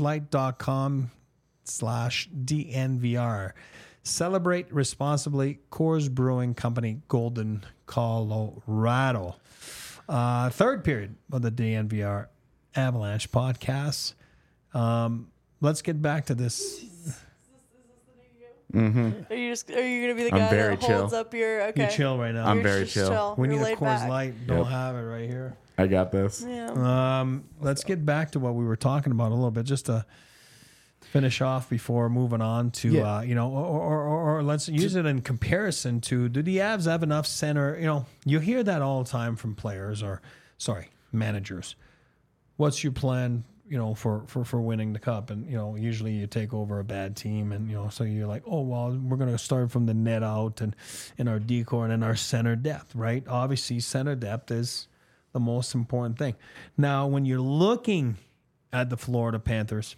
A: CoorsLight.com/DNVR. Celebrate responsibly. Coors Brewing Company, Golden, Colorado. Third period of the DNVR Avalanche podcast. Let's get back to this.
C: Are you gonna be the guy
B: very
C: that holds
B: chill.
C: up your? Okay.
A: You chill right now.
B: I'm
C: You're
B: very
C: just
B: chill.
A: We
C: You're
A: need a
C: laid
A: Coors
C: back.
A: Light. Don't have it right here.
B: I got this.
C: Yeah.
A: Let's get back to what we were talking about a little bit, just to finish off before moving on to, or let's use it in comparison to, do the Avs have enough center? You hear that all the time from players managers. What's your plan, for winning the cup? And, usually you take over a bad team and, so you're like, oh, well, we're going to start from the net out and in our decor and in our center depth, right? Obviously, center depth is the most important thing. Now, when you're looking at the Florida Panthers,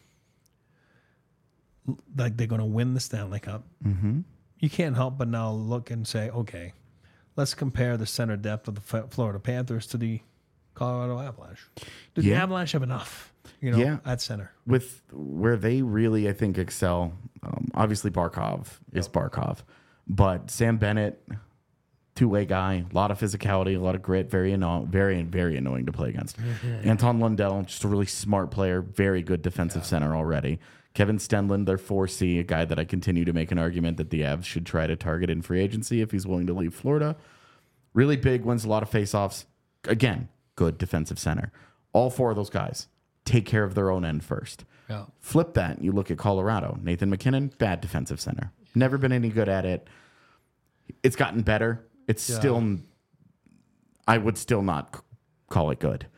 A: like they're going to win the Stanley Cup, you can't help but now look and say, okay, let's compare the center depth of the Florida Panthers to the Colorado Avalanche. Do the Avalanche have enough, at center?
B: With where they really, I think, excel, obviously Barkov is Barkov, but Sam Bennett, two-way guy, a lot of physicality, a lot of grit, very annoying to play against. Anton Lundell, just a really smart player, very good defensive center already. Kevin Stenlund, their 4C, a guy that I continue to make an argument that the Avs should try to target in free agency if he's willing to leave Florida. Really big, wins a lot of faceoffs. Again, good defensive center. All four of those guys take care of their own end first.
A: Yeah.
B: Flip that, and you look at Colorado. Nathan McKinnon, bad defensive center. Never been any good at it. It's gotten better. It's still, I would still not call it good.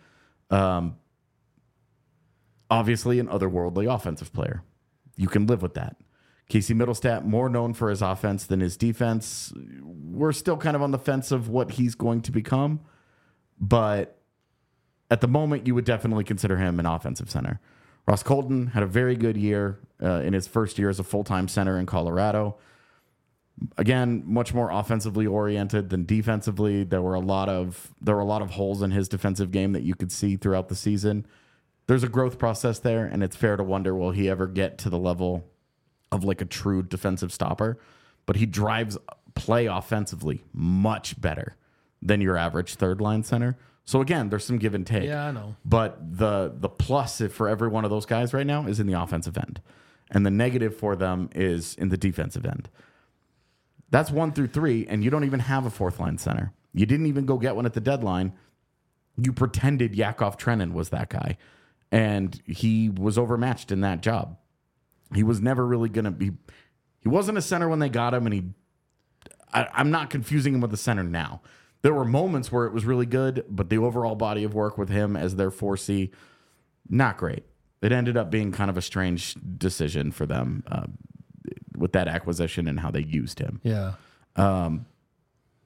B: Obviously, an otherworldly offensive player. You can live with that. Casey Middlestat, more known for his offense than his defense. We're still kind of on the fence of what he's going to become. But at the moment, you would definitely consider him an offensive center. Ross Colton had a very good year in his first year as a full-time center in Colorado. Again, much more offensively oriented than defensively. There were a lot of holes in his defensive game that you could see throughout the season. There's a growth process there, and it's fair to wonder, will he ever get to the level of like a true defensive stopper? But he drives play offensively much better than your average third-line center. So again, there's some give and take.
A: Yeah, I know.
B: But the plus for every one of those guys right now is in the offensive end. And the negative for them is in the defensive end. That's 1 through 3, and you don't even have a fourth-line center. You didn't even go get one at the deadline. You pretended Yakov Trenin was that guy. And he was overmatched in that job. He was never really going to be... He wasn't a center when they got him, and I'm not confusing him with a center now. There were moments where it was really good, but the overall body of work with him as their 4C, not great. It ended up being kind of a strange decision for them with that acquisition and how they used him.
A: Yeah.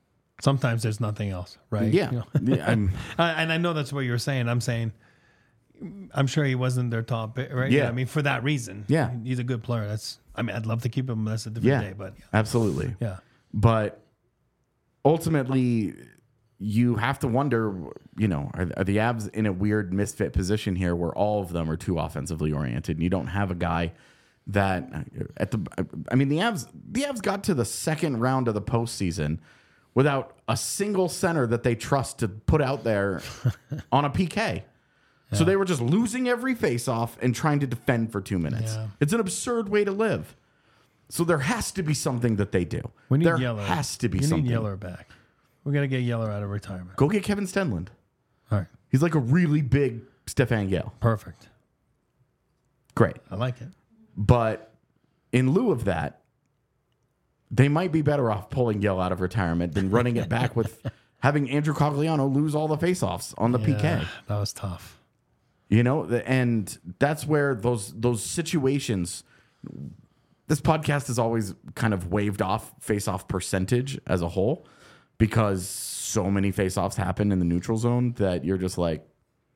A: Sometimes there's nothing else, right?
B: Yeah.
A: And I know that's what you're saying. I'm saying, I'm sure he wasn't their top pick, right?
B: Yeah.
A: I mean, for that reason.
B: Yeah.
A: He's a good player. I'd love to keep him. That's a different
B: Yeah,
A: day, but
B: absolutely.
A: yeah.
B: But ultimately, you have to wonder, are the Avs in a weird misfit position here where all of them are too offensively oriented and you don't have a guy that the Avs got to the second round of the postseason without a single center that they trust to put out there on a PK. Yeah. So they were just losing every faceoff and trying to defend for 2 minutes.
A: Yeah.
B: It's an absurd way to live. So there has to be something that they do.
A: We need
B: there
A: Yeller.
B: has to be
A: we
B: something.
A: need Yeller back. We got to get Yeller out of retirement.
B: Go get Kevin Stenlund.
A: All right.
B: He's like a really big Stefan Gale.
A: Perfect.
B: Great.
A: I like it.
B: But in lieu of that, they might be better off pulling Yale out of retirement than running it back with having Andrew Cogliano lose all the faceoffs on the PK.
A: That was tough.
B: And that's where those situations. This podcast has always kind of waved off face-off percentage as a whole because so many face-offs happen in the neutral zone that you're just like,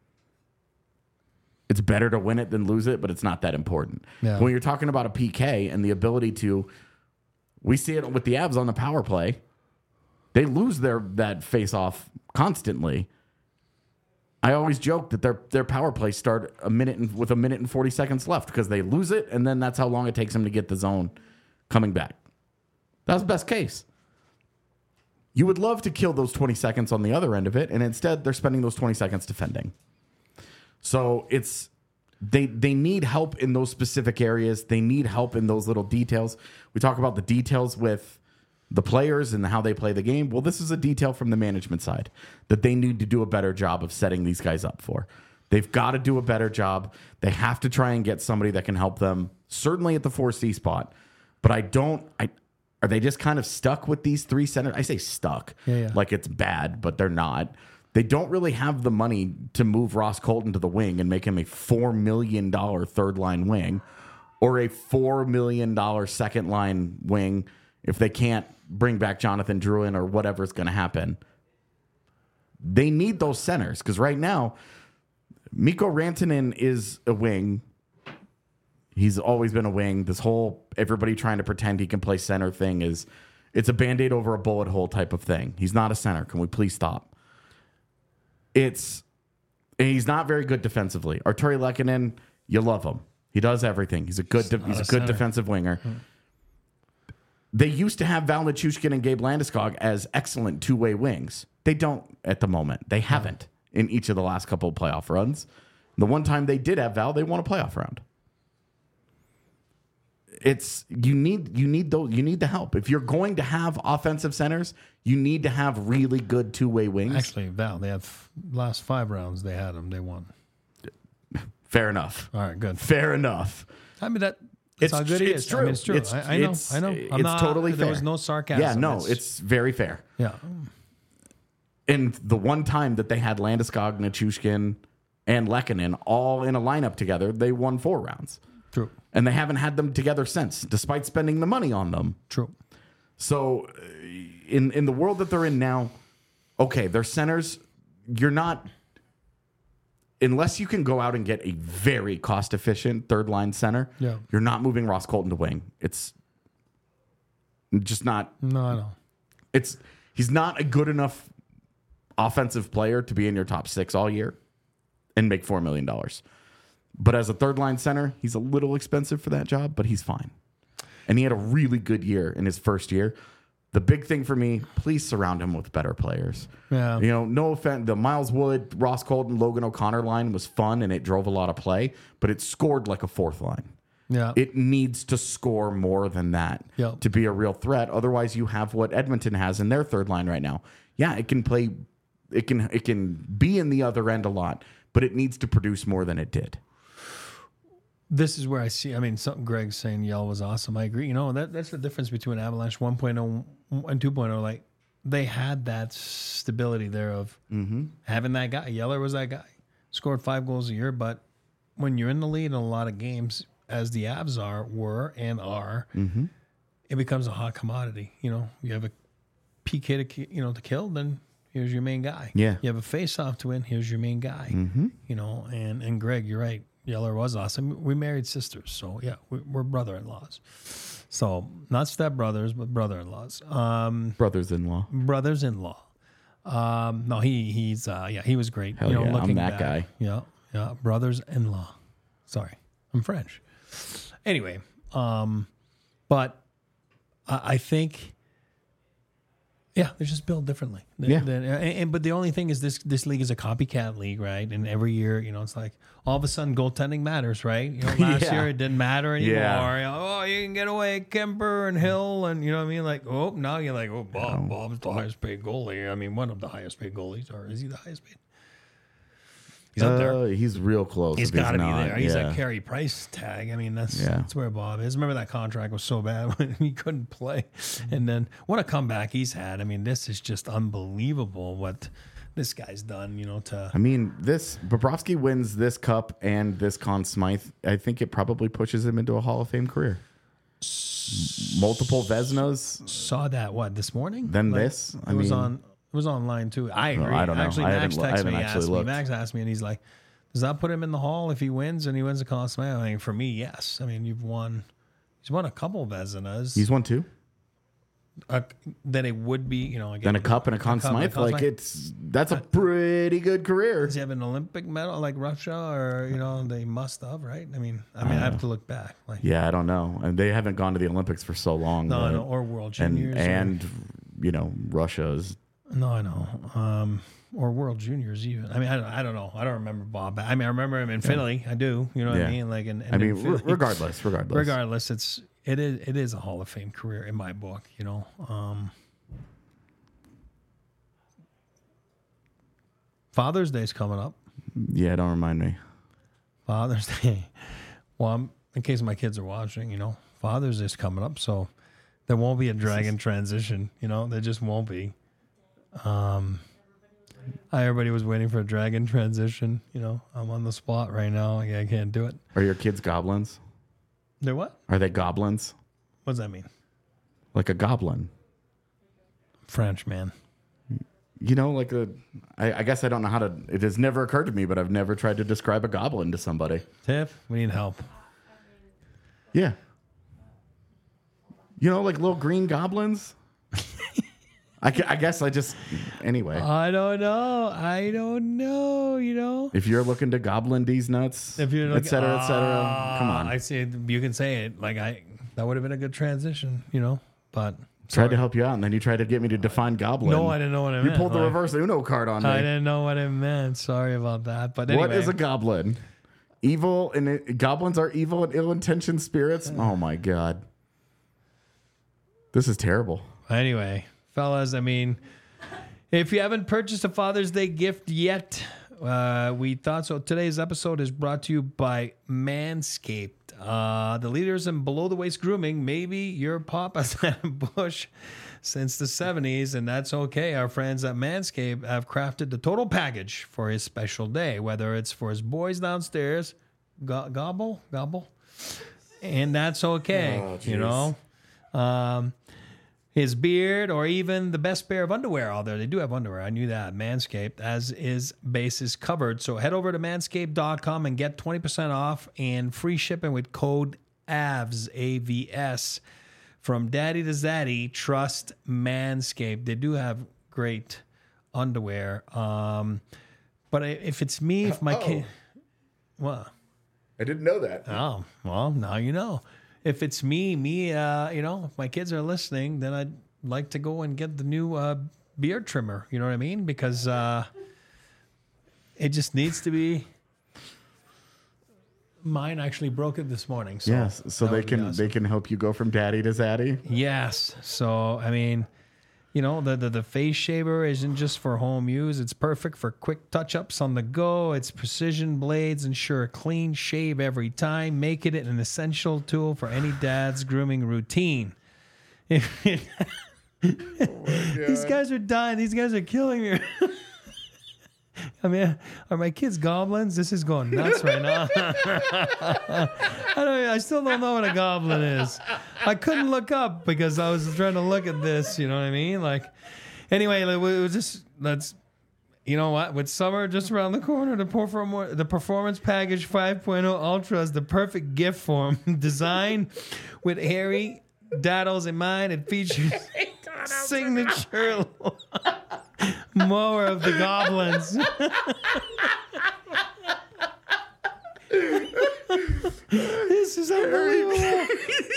B: it's better to win it than lose it, but it's not that important.
A: Yeah.
B: When you're talking about a PK and the ability to, we see it with the Avs on the power play, they lose that face-off constantly. I always joke that their power play start with a minute and 40 seconds left because they lose it, and then that's how long it takes them to get the zone coming back. That's the best case. You would love to kill those 20 seconds on the other end of it, and instead they're spending those 20 seconds defending. So they need help in those specific areas. They need help in those little details. We talk about the details with the players and how they play the game. Well, this is a detail from the management side that they need to do a better job of setting these guys up for. They've got to do a better job. They have to try and get somebody that can help them, certainly at the 4C spot. But are they just kind of stuck with these three centers? I say stuck, like it's bad, but they're not. They don't really have the money to move Ross Colton to the wing and make him a $4 million third line wing or a $4 million second line wing if they can't bring back Jonathan Drouin or whatever's going to happen. They need those centers because right now, Mikko Rantanen is a wing. He's always been a wing. This whole everybody trying to pretend he can play center thing it's a Band-Aid over a bullet hole type of thing. He's not a center. Can we please stop? He's not very good defensively. Arturi Lehkonen, you love him. He does everything. He's a good defensive winger. They used to have Val Nichushkin and Gabe Landeskog as excellent two-way wings. They don't at the moment. They haven't in each of the last couple of playoff runs. The one time they did have Val, they won a playoff round. You need the help. If you're going to have offensive centers, you need to have really good two-way wings.
A: Actually, Val, they have last 5 rounds they had them. They won.
B: Fair enough.
A: All right, good.
B: Fair enough.
A: I mean that's how good he is.
B: True.
A: I mean, it's true. I know.
B: It's totally fair.
A: There was no sarcasm.
B: Yeah, no, it's very fair.
A: Yeah.
B: And the one time that they had Landeskog, Nichushkin, and Lehkonen all in a lineup together, they won 4 rounds.
A: True.
B: And they haven't had them together since, despite spending the money on them.
A: True.
B: So in the world that they're in now, okay, they're centers. You're not, unless you can go out and get a very cost-efficient third-line center, you're not moving Ross Colton to wing. It's just not.
A: No, I know.
B: He's not a good enough offensive player to be in your top 6 all year and make $4 million. But as a third-line center, he's a little expensive for that job, but he's fine. And he had a really good year in his first year. The big thing for me, please surround him with better players.
A: Yeah.
B: No offense. The Miles Wood, Ross Colton, Logan O'Connor line was fun and it drove a lot of play, but it scored like a 4th line.
A: Yeah.
B: It needs to score more than that to be a real threat. Otherwise, you have what Edmonton has in their third line right now. Yeah, it can play. It can be in the other end a lot, but it needs to produce more than it did.
A: This is where I see, something Greg's saying Yell was awesome. I agree. That's the difference between Avalanche 1.0 and 2.0. Like, they had that stability there of having that guy. Yeller was that guy. Scored 5 goals a year, but when you're in the lead in a lot of games, as the Avs were, it becomes a hot commodity. You have a PK to kill, then, Here's your main guy.
B: Yeah.
A: You have a face-off to win. Here's your main guy. You know, and Greg, you're right. Yeller was awesome. We married sisters, so yeah, we're brother-in-laws. So not step-brothers, but brother-in-laws.
B: Brothers-in-law.
A: Brothers-in-law. No, he was great.
B: Hell
A: you know,
B: yeah, I'm
A: looking
B: that
A: back.
B: guy.
A: Yeah, brothers-in-law. Sorry, I'm French. Anyway, but I think, yeah, they're just built differently. But the only thing is this league is a copycat league, right? And every year, you know, it's like all of a sudden goaltending matters, right? You know, last year it didn't matter anymore.
B: Yeah.
A: You know, you can get away Kemper and Hill, and you know what I mean? Like, now you're like, Bob's the highest paid goalie. I mean, one of the highest paid goalies, or is he the highest paid? He's up there.
B: He's real close.
A: He's got to be there. He's
B: yeah.
A: a Carey Price tag. I mean, that's where Bob is. Remember that contract was so bad when he couldn't play, and then what a comeback he's had. I mean, this is just unbelievable what this guy's done. You know,
B: I mean, Bobrovsky wins this cup and this Conn Smythe. I think it probably pushes him into a Hall of Fame career. Multiple Vezinas.
A: Saw that this morning?
B: Then this.
A: It was online too. I agree.
B: I don't know.
A: Actually, Max texted me, asked me.
B: Looked.
A: Max asked me, and he's like, "Does that put him in the Hall if he wins and he wins the Conn Smythe?" I mean, for me, yes. I mean, he's won a couple Vezinas.
B: He's won 2.
A: Then it would be, you know, again,
B: Then a cup and a Conn Smythe. That's a pretty good career.
A: Does he have an Olympic medal like Russia, or you know, they must have, right? I mean, I have to look back. Like,
B: yeah, I don't know, and they haven't gone to the Olympics for so long.
A: No, or World Juniors,
B: and you know, Russia's.
A: No, I know. Or World Juniors even. I mean, I don't know. I don't remember Bob. I mean, I remember him in Philly. I do. You know what I mean? Like,
B: regardless,
A: it is a Hall of Fame career in my book. You know. Father's Day's coming up.
B: Yeah, don't remind me.
A: Father's Day. Well, in case my kids are watching, you know, Father's Day's coming up, so there won't be a dragon transition. You know, there just won't be. Everybody was waiting for a dragon transition. You know, I'm on the spot right now. I can't do it.
B: Are your kids goblins?
A: They're what?
B: Are they goblins?
A: What does that mean?
B: Like a goblin.
A: French, man.
B: You know, I guess I don't know how to. It has never occurred to me, but I've never tried to describe a goblin to somebody.
A: Tiff, we need help.
B: Yeah. You know, like little green goblins. I guess anyway.
A: I don't know, you know.
B: If you're looking to goblin these nuts, et cetera, come on.
A: I see. You can say it. That would have been a good transition, you know, but.
B: Tried to help you out, and then you tried to get me to define goblin.
A: No, I didn't know what I meant.
B: You pulled the reverse Uno card on me.
A: I didn't know what it meant. Sorry about that. But anyway.
B: What is a goblin? Evil, and goblins are evil and ill-intentioned spirits? Oh, my God. This is terrible.
A: Anyway, fellas, I mean, if you haven't purchased a Father's Day gift yet, we thought so. Today's episode is brought to you by Manscaped. The leaders in below-the-waist grooming. Maybe your pop has had a bush since the 70s, and that's okay. Our friends at Manscaped have crafted the total package for his special day, whether it's for his boys downstairs, gobble, and that's okay, you know. His beard, or even the best pair of underwear out there. They do have underwear. I knew that. Manscaped, as is bases covered. So head over to manscaped.com and get 20% off and free shipping with code AVS, AVS. From daddy to zaddy, trust Manscaped. They do have great underwear. But if it's me, if my kid... What?
B: I didn't know that.
A: Oh, well, now you know. If it's me, you know, if my kids are listening, then I'd like to go and get the new beard trimmer. You know what I mean? Because it just needs to be. Mine actually broke it this morning. So
B: yes, so they can help you go from daddy to zaddy.
A: Yes. So I mean, you know, the face shaver isn't just for home use. It's perfect for quick touch-ups on the go. Its precision blades ensure a clean shave every time, making it an essential tool for any dad's grooming routine. These guys are dying. These guys are killing me. I mean, are my kids goblins? This is going nuts right now. I still don't know what a goblin is. I couldn't look up because I was trying to look at this. You know what I mean? Like, anyway, it was just You know what? With summer just around the corner, the Performance Package 5.0 Ultra is the perfect gift for him. Designed with hairy daddles in mind, it features signature mower of the Goblins. This is unbelievable.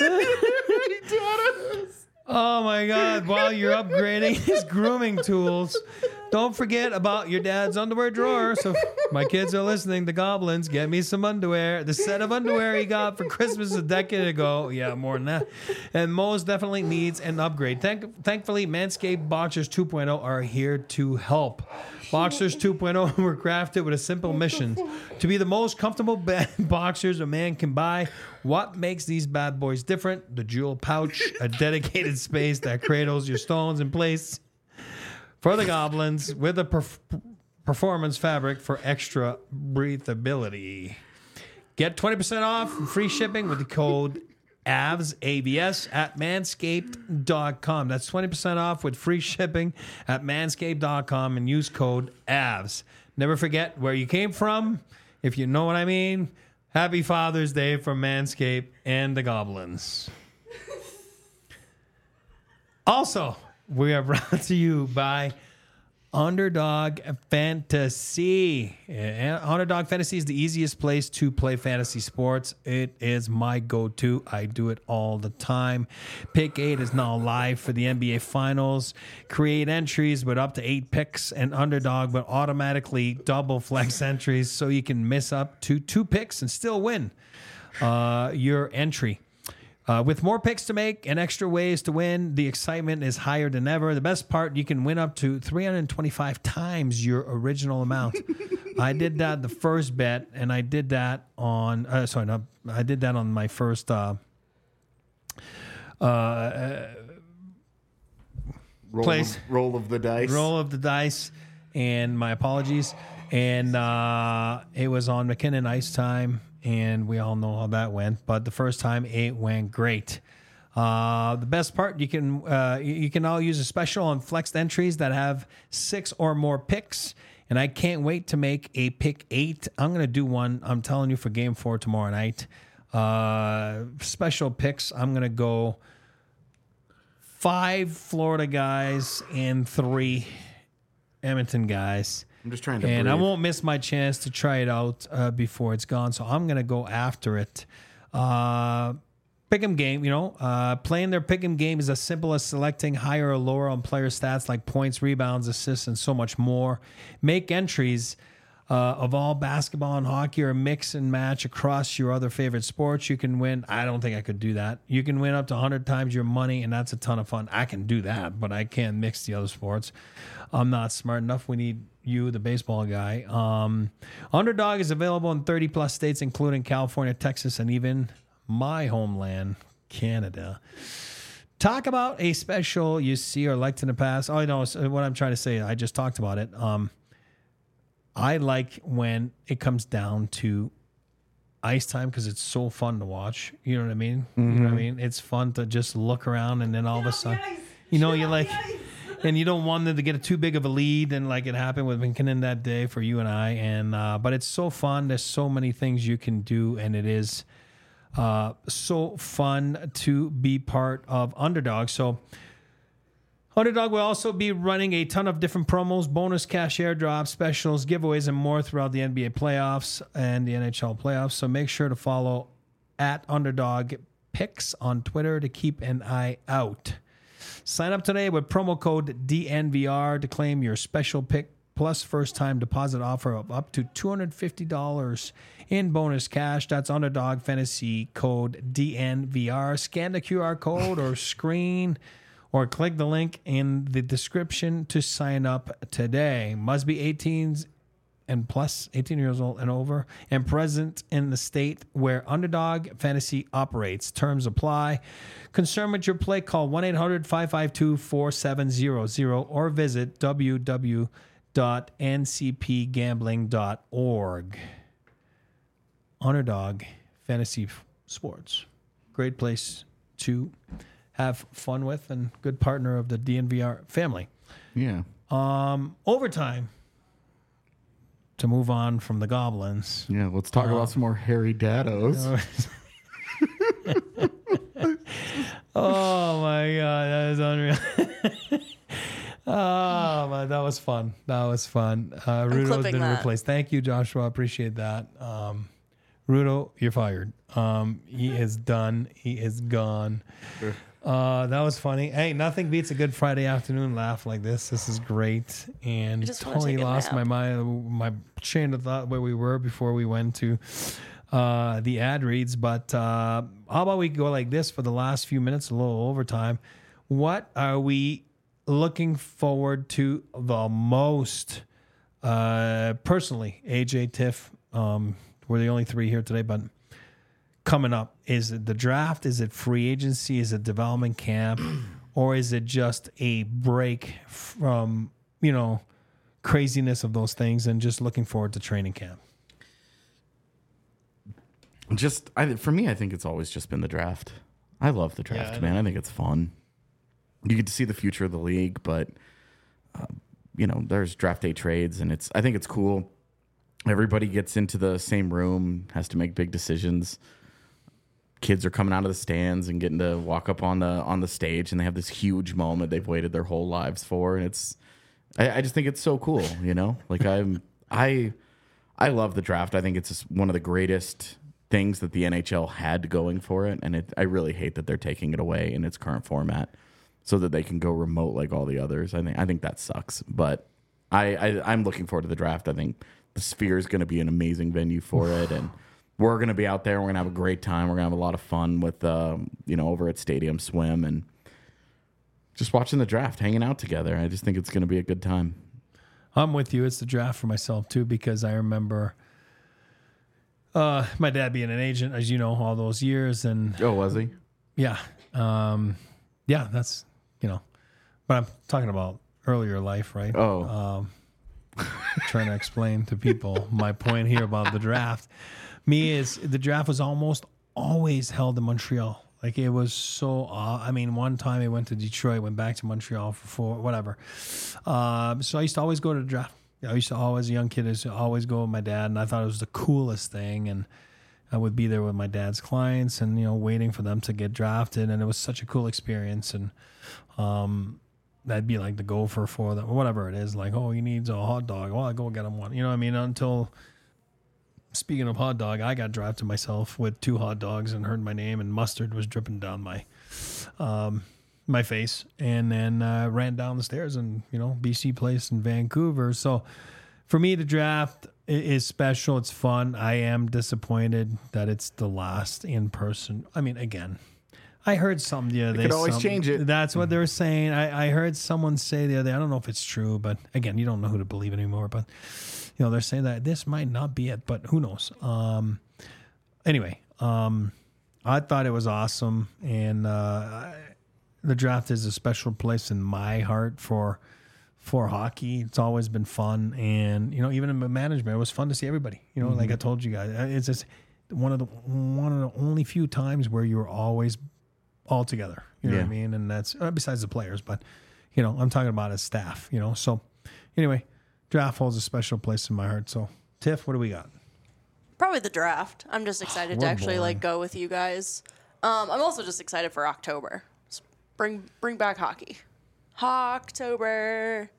A: Oh my God. While you're upgrading his grooming tools, don't forget about your dad's underwear drawer. So my kids are listening. The Goblins, get me some underwear. The set of underwear he got for Christmas a decade ago. Yeah, more than that. And most definitely needs an upgrade. Thankfully, Manscaped Boxers 2.0 are here to help. Boxers 2.0 were crafted with a simple mission: to be the most comfortable boxers a man can buy. What makes these bad boys different? The jewel pouch, a dedicated space that cradles your stones in place for the Goblins, with a performance fabric for extra breathability. Get 20% off and free shipping with the code AVS, AVS at manscaped.com. That's 20% off with free shipping at manscaped.com and use code AVS. Never forget where you came from, if you know what I mean. Happy Father's Day from Manscaped and the Goblins. Also, we are brought to you by Underdog Fantasy. Underdog Fantasy is the easiest place to play fantasy sports. It is my go-to. I do it all the time. Pick 8 is now live for the NBA Finals. Create entries with up to 8 picks, and Underdog will automatically double flex entries so you can miss up to 2 picks and still win your entry. With more picks to make and extra ways to win, the excitement is higher than ever. The best part, you can win up to 325 times your original amount. I did that the first bet, and I did that on I did that on my first
B: roll of the dice.
A: Roll of the dice, and my apologies. And it was on McKinnon Ice Time. And we all know how that went. But the first time, it went great. The best part, you can all use a special on flexed entries that have 6 or more picks. And I can't wait to make a pick 8. I'm going to do one, I'm telling you, for game 4 tomorrow night. Special picks, I'm going to go 5 Florida guys and 3 Edmonton guys.
B: I'm just trying to
A: And
B: breathe.
A: I won't miss my chance to try it out before it's gone. So I'm going to go after it. Pick'em game, playing their pick'em game is as simple as selecting higher or lower on player stats like points, rebounds, assists, and so much more. Make entries of all basketball and hockey, or mix and match across your other favorite sports. You can win. I don't think I could do that. You can win up to 100 times your money, and that's a ton of fun. I can do that, but I can't mix the other sports. I'm not smart enough. We need you, the baseball guy. Underdog is available in 30 plus states, including California, Texas, and even my homeland, Canada. Talk about a special you see or liked in the past. Oh, no, what I'm trying to say, I just talked about it. I like when it comes down to ice time because it's so fun to watch. You know what I mean? Mm-hmm. You know what I mean? It's fun to just look around, and then all of a sudden, you're like, and you don't want them to get too big of a lead, and like it happened with McKinnon that day for you and I. And but it's so fun. There's so many things you can do, and it is so fun to be part of Underdog. So Underdog will also be running a ton of different promos, bonus cash airdrops, specials, giveaways, and more throughout the NBA playoffs and the NHL playoffs. So make sure to follow at Underdog Picks on Twitter to keep an eye out. Sign up today with promo code DNVR to claim your special pick plus first-time deposit offer of up to $250 in bonus cash. That's Underdog Fantasy code DNVR. Scan the QR code or screen or click the link in the description to sign up today. Must be 18 and plus, 18 years old and over, and present in the state where Underdog Fantasy operates. Terms apply. Concern with your play, call 1-800-552-4700 or visit www.ncpgambling.org. Underdog Fantasy Sports. Great place to have fun with and good partner of the DNVR family.
B: Yeah.
A: Overtime. To move on from the Goblins.
B: Yeah, let's talk about some more hairy daddos.
A: Oh my God, that is unreal. Oh man, that was fun. Rudo
C: clipping
A: didn't
C: that.
A: replace. Thank you, Joshua. Appreciate that. Rudo, you're fired. He is done. He is gone. That was funny. Hey, nothing beats a good Friday afternoon laugh like this. This is great. And
C: just wanna
A: totally
C: take a
A: lost
C: nap.
A: my mind, my chain of thought where we were before we went to the ad reads. But how about we go like this for the last few minutes, a little overtime. What are we looking forward to the most? Personally, AJ, Tiff, we're the only three here today, but coming up, is it the draft? Is it free agency? Is it development camp? Or is it just a break from, craziness of those things and just looking forward to training camp?
B: For me, I think it's always just been the draft. I love the draft,
A: Yeah,
B: man. I think it's fun. You get to see the future of the league, but there's draft day trades, and I think it's cool. Everybody gets into the same room, has to make big decisions. Kids are coming out of the stands and getting to walk up on the stage, and they have this huge moment they've waited their whole lives for, and I just think it's so cool, Like I love the draft. I think it's just one of the greatest things that the NHL had going for it, and I really hate that they're taking it away in its current format so that they can go remote like all the others. I think that sucks, but I'm looking forward to the draft. I think the Sphere is going to be an amazing venue for it, and we're going to be out there. We're going to have a great time. We're going to have a lot of fun with over at Stadium Swim and just watching the draft, hanging out together. I just think it's going to be a good time.
A: I'm with you. It's the draft for myself too, because I remember my dad being an agent, as you know, all those years. And
B: Oh, was he?
A: yeah, that's, but I'm talking about earlier life, right?
B: Oh,
A: Trying to explain to people my point here about the draft. The draft was almost always held in Montreal. Like it was so, one time I went to Detroit, went back to Montreal for whatever. So I used to always go to the draft. I used to always, a young kid, I used to always go with my dad, and I thought it was the coolest thing. And I would be there with my dad's clients and, waiting for them to get drafted. And it was such a cool experience. And that'd be like the gopher for them, or whatever it is. Like, oh, he needs a hot dog. Well, I go get him one. You know what I mean? Until, speaking of hot dog, I got drafted myself with 2 hot dogs and heard my name, and mustard was dripping down my face, and then ran down the stairs and, BC Place in Vancouver. So for me, the draft is special. It's fun. I am disappointed that it's the last in person. I mean, again, I heard something the other day.
B: could always change it.
A: That's what they were saying. I heard someone say the other day, I don't know if it's true, but again, you don't know who to believe anymore, but they're saying that this might not be it, but who knows? Anyway, I thought it was awesome, and the draft is a special place in my heart for hockey. It's always been fun, and even in management, it was fun to see everybody. Like I told you guys, it's just one of the only few times where you're always all together. You know what I mean? And that's besides the players, but I'm talking about as staff. So anyway, draft holds a special place in my heart. So Tiff, what do we got?
C: Probably the draft. I'm just excited to
A: We're
C: actually
A: boring.
C: go with you guys. I'm also just excited for October. Just bring back hockey. Hocktober.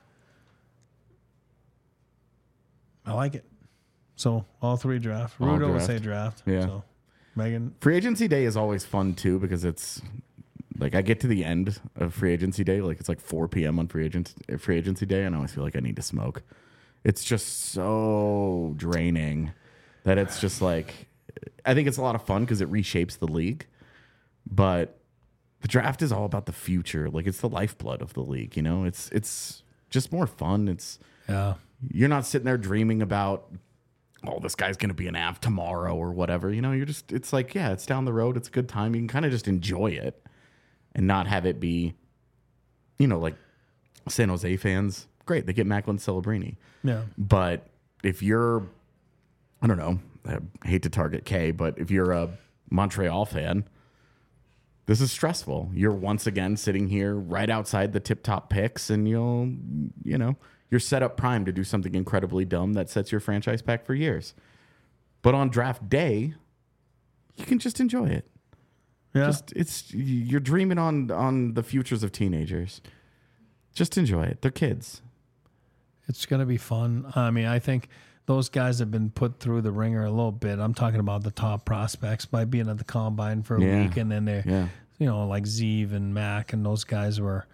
A: I like it. So all 3 draft.
B: All
A: Rudo would
B: draft.
A: say draft.
B: Yeah.
A: So Megan.
B: Free agency day is always fun too, because it's like I get to the end of free agency day, like it's like 4 p.m. on free agency day, and I always feel like I need to smoke. It's just so draining that it's just like, I think it's a lot of fun because it reshapes the league, but the draft is all about the future. Like it's the lifeblood of the league, It's just more fun.
A: Yeah.
B: You're not sitting there dreaming about, oh, this guy's going to be an Av tomorrow or whatever. It's like, yeah, it's down the road. It's a good time. You can kind of just enjoy it and not have it be, like San Jose fans. Great. They get Macklin Celebrini.
A: Yeah.
B: But if you're, I don't know, I hate to target K, but if you're a Montreal fan, this is stressful. You're once again sitting here right outside the tip-top picks, and you're set up prime to do something incredibly dumb that sets your franchise back for years. But on draft day, you can just enjoy it.
A: Yeah.
B: You're dreaming on the futures of teenagers. Just enjoy it. They're kids.
A: It's going to be fun. I mean, I think those guys have been put through the ringer a little bit. I'm talking about the top prospects by being at the combine for a week, and then they're, like Zeev and Mac, and those guys were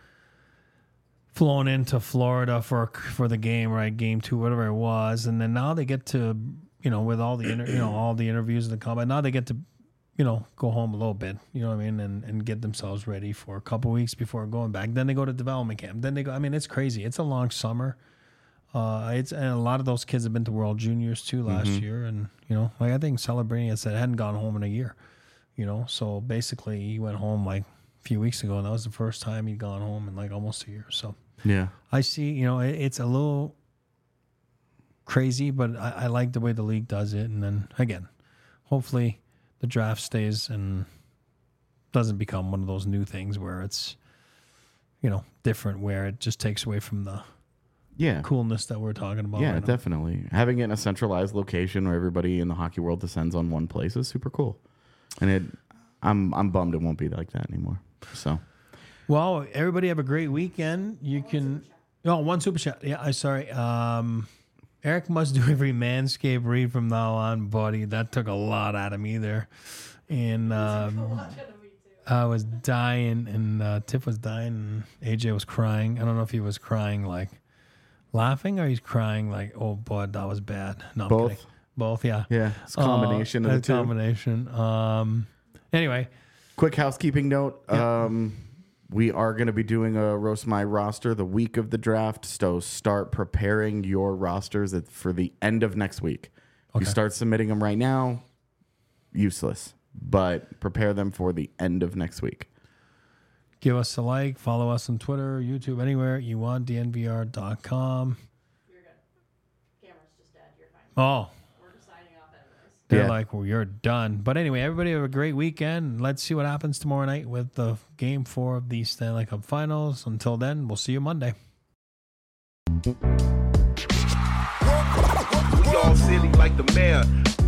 A: flown into Florida for the game, right? Game 2, whatever it was, and then now they get to, with all the all the interviews in the combine. Now they get to, go home a little bit, you know what I mean, and get themselves ready for a couple weeks before going back. Then they go to development camp. Then they go. I mean, it's crazy. It's a long summer. And a lot of those kids have been to World Juniors too last year, and like I think celebrating it said hadn't gone home in a year, So basically, he went home like a few weeks ago, and that was the first time he'd gone home in like almost a year. So
B: yeah,
A: I see. It's a little crazy, but I like the way the league does it. And then again, hopefully the draft stays and doesn't become one of those new things where it's different, where it just takes away from the coolness that we're talking about.
B: Yeah,
A: right now.
B: definitely. Having it in a centralized location where everybody in the hockey world descends on one place is super cool. And I'm bummed it won't be like that anymore. So,
A: well, everybody have a great weekend. You can one super chat. Yeah, I'm sorry. Eric must do every Manscaped read from now on, buddy. That took a lot out of me there. And I was dying, and Tiff was dying, and AJ was crying. I don't know if he was crying like laughing or he's crying like, oh, boy, that was bad. No,
B: both.
A: I'm kidding. Both, yeah.
B: Yeah, it's a combination of the two.
A: Combination. Anyway.
B: Quick housekeeping note.
A: Yeah.
B: We are going to be doing a Roast My Roster the week of the draft, so start preparing your rosters for the end of next week.
A: Okay.
B: You start submitting them right now, useless, but prepare them for the end of next week.
A: Give us a like, follow us on Twitter, YouTube, anywhere you want, dnvr.com.
C: You're good. Camera's just dead. You're fine.
A: Oh.
C: We're just signing off anyways.
A: They're like, well, you're done. But anyway, everybody have a great weekend. Let's see what happens tomorrow night with the Game 4 of the Stanley Cup Finals. Until then, we'll see you Monday.
D: We all silly like the mayor.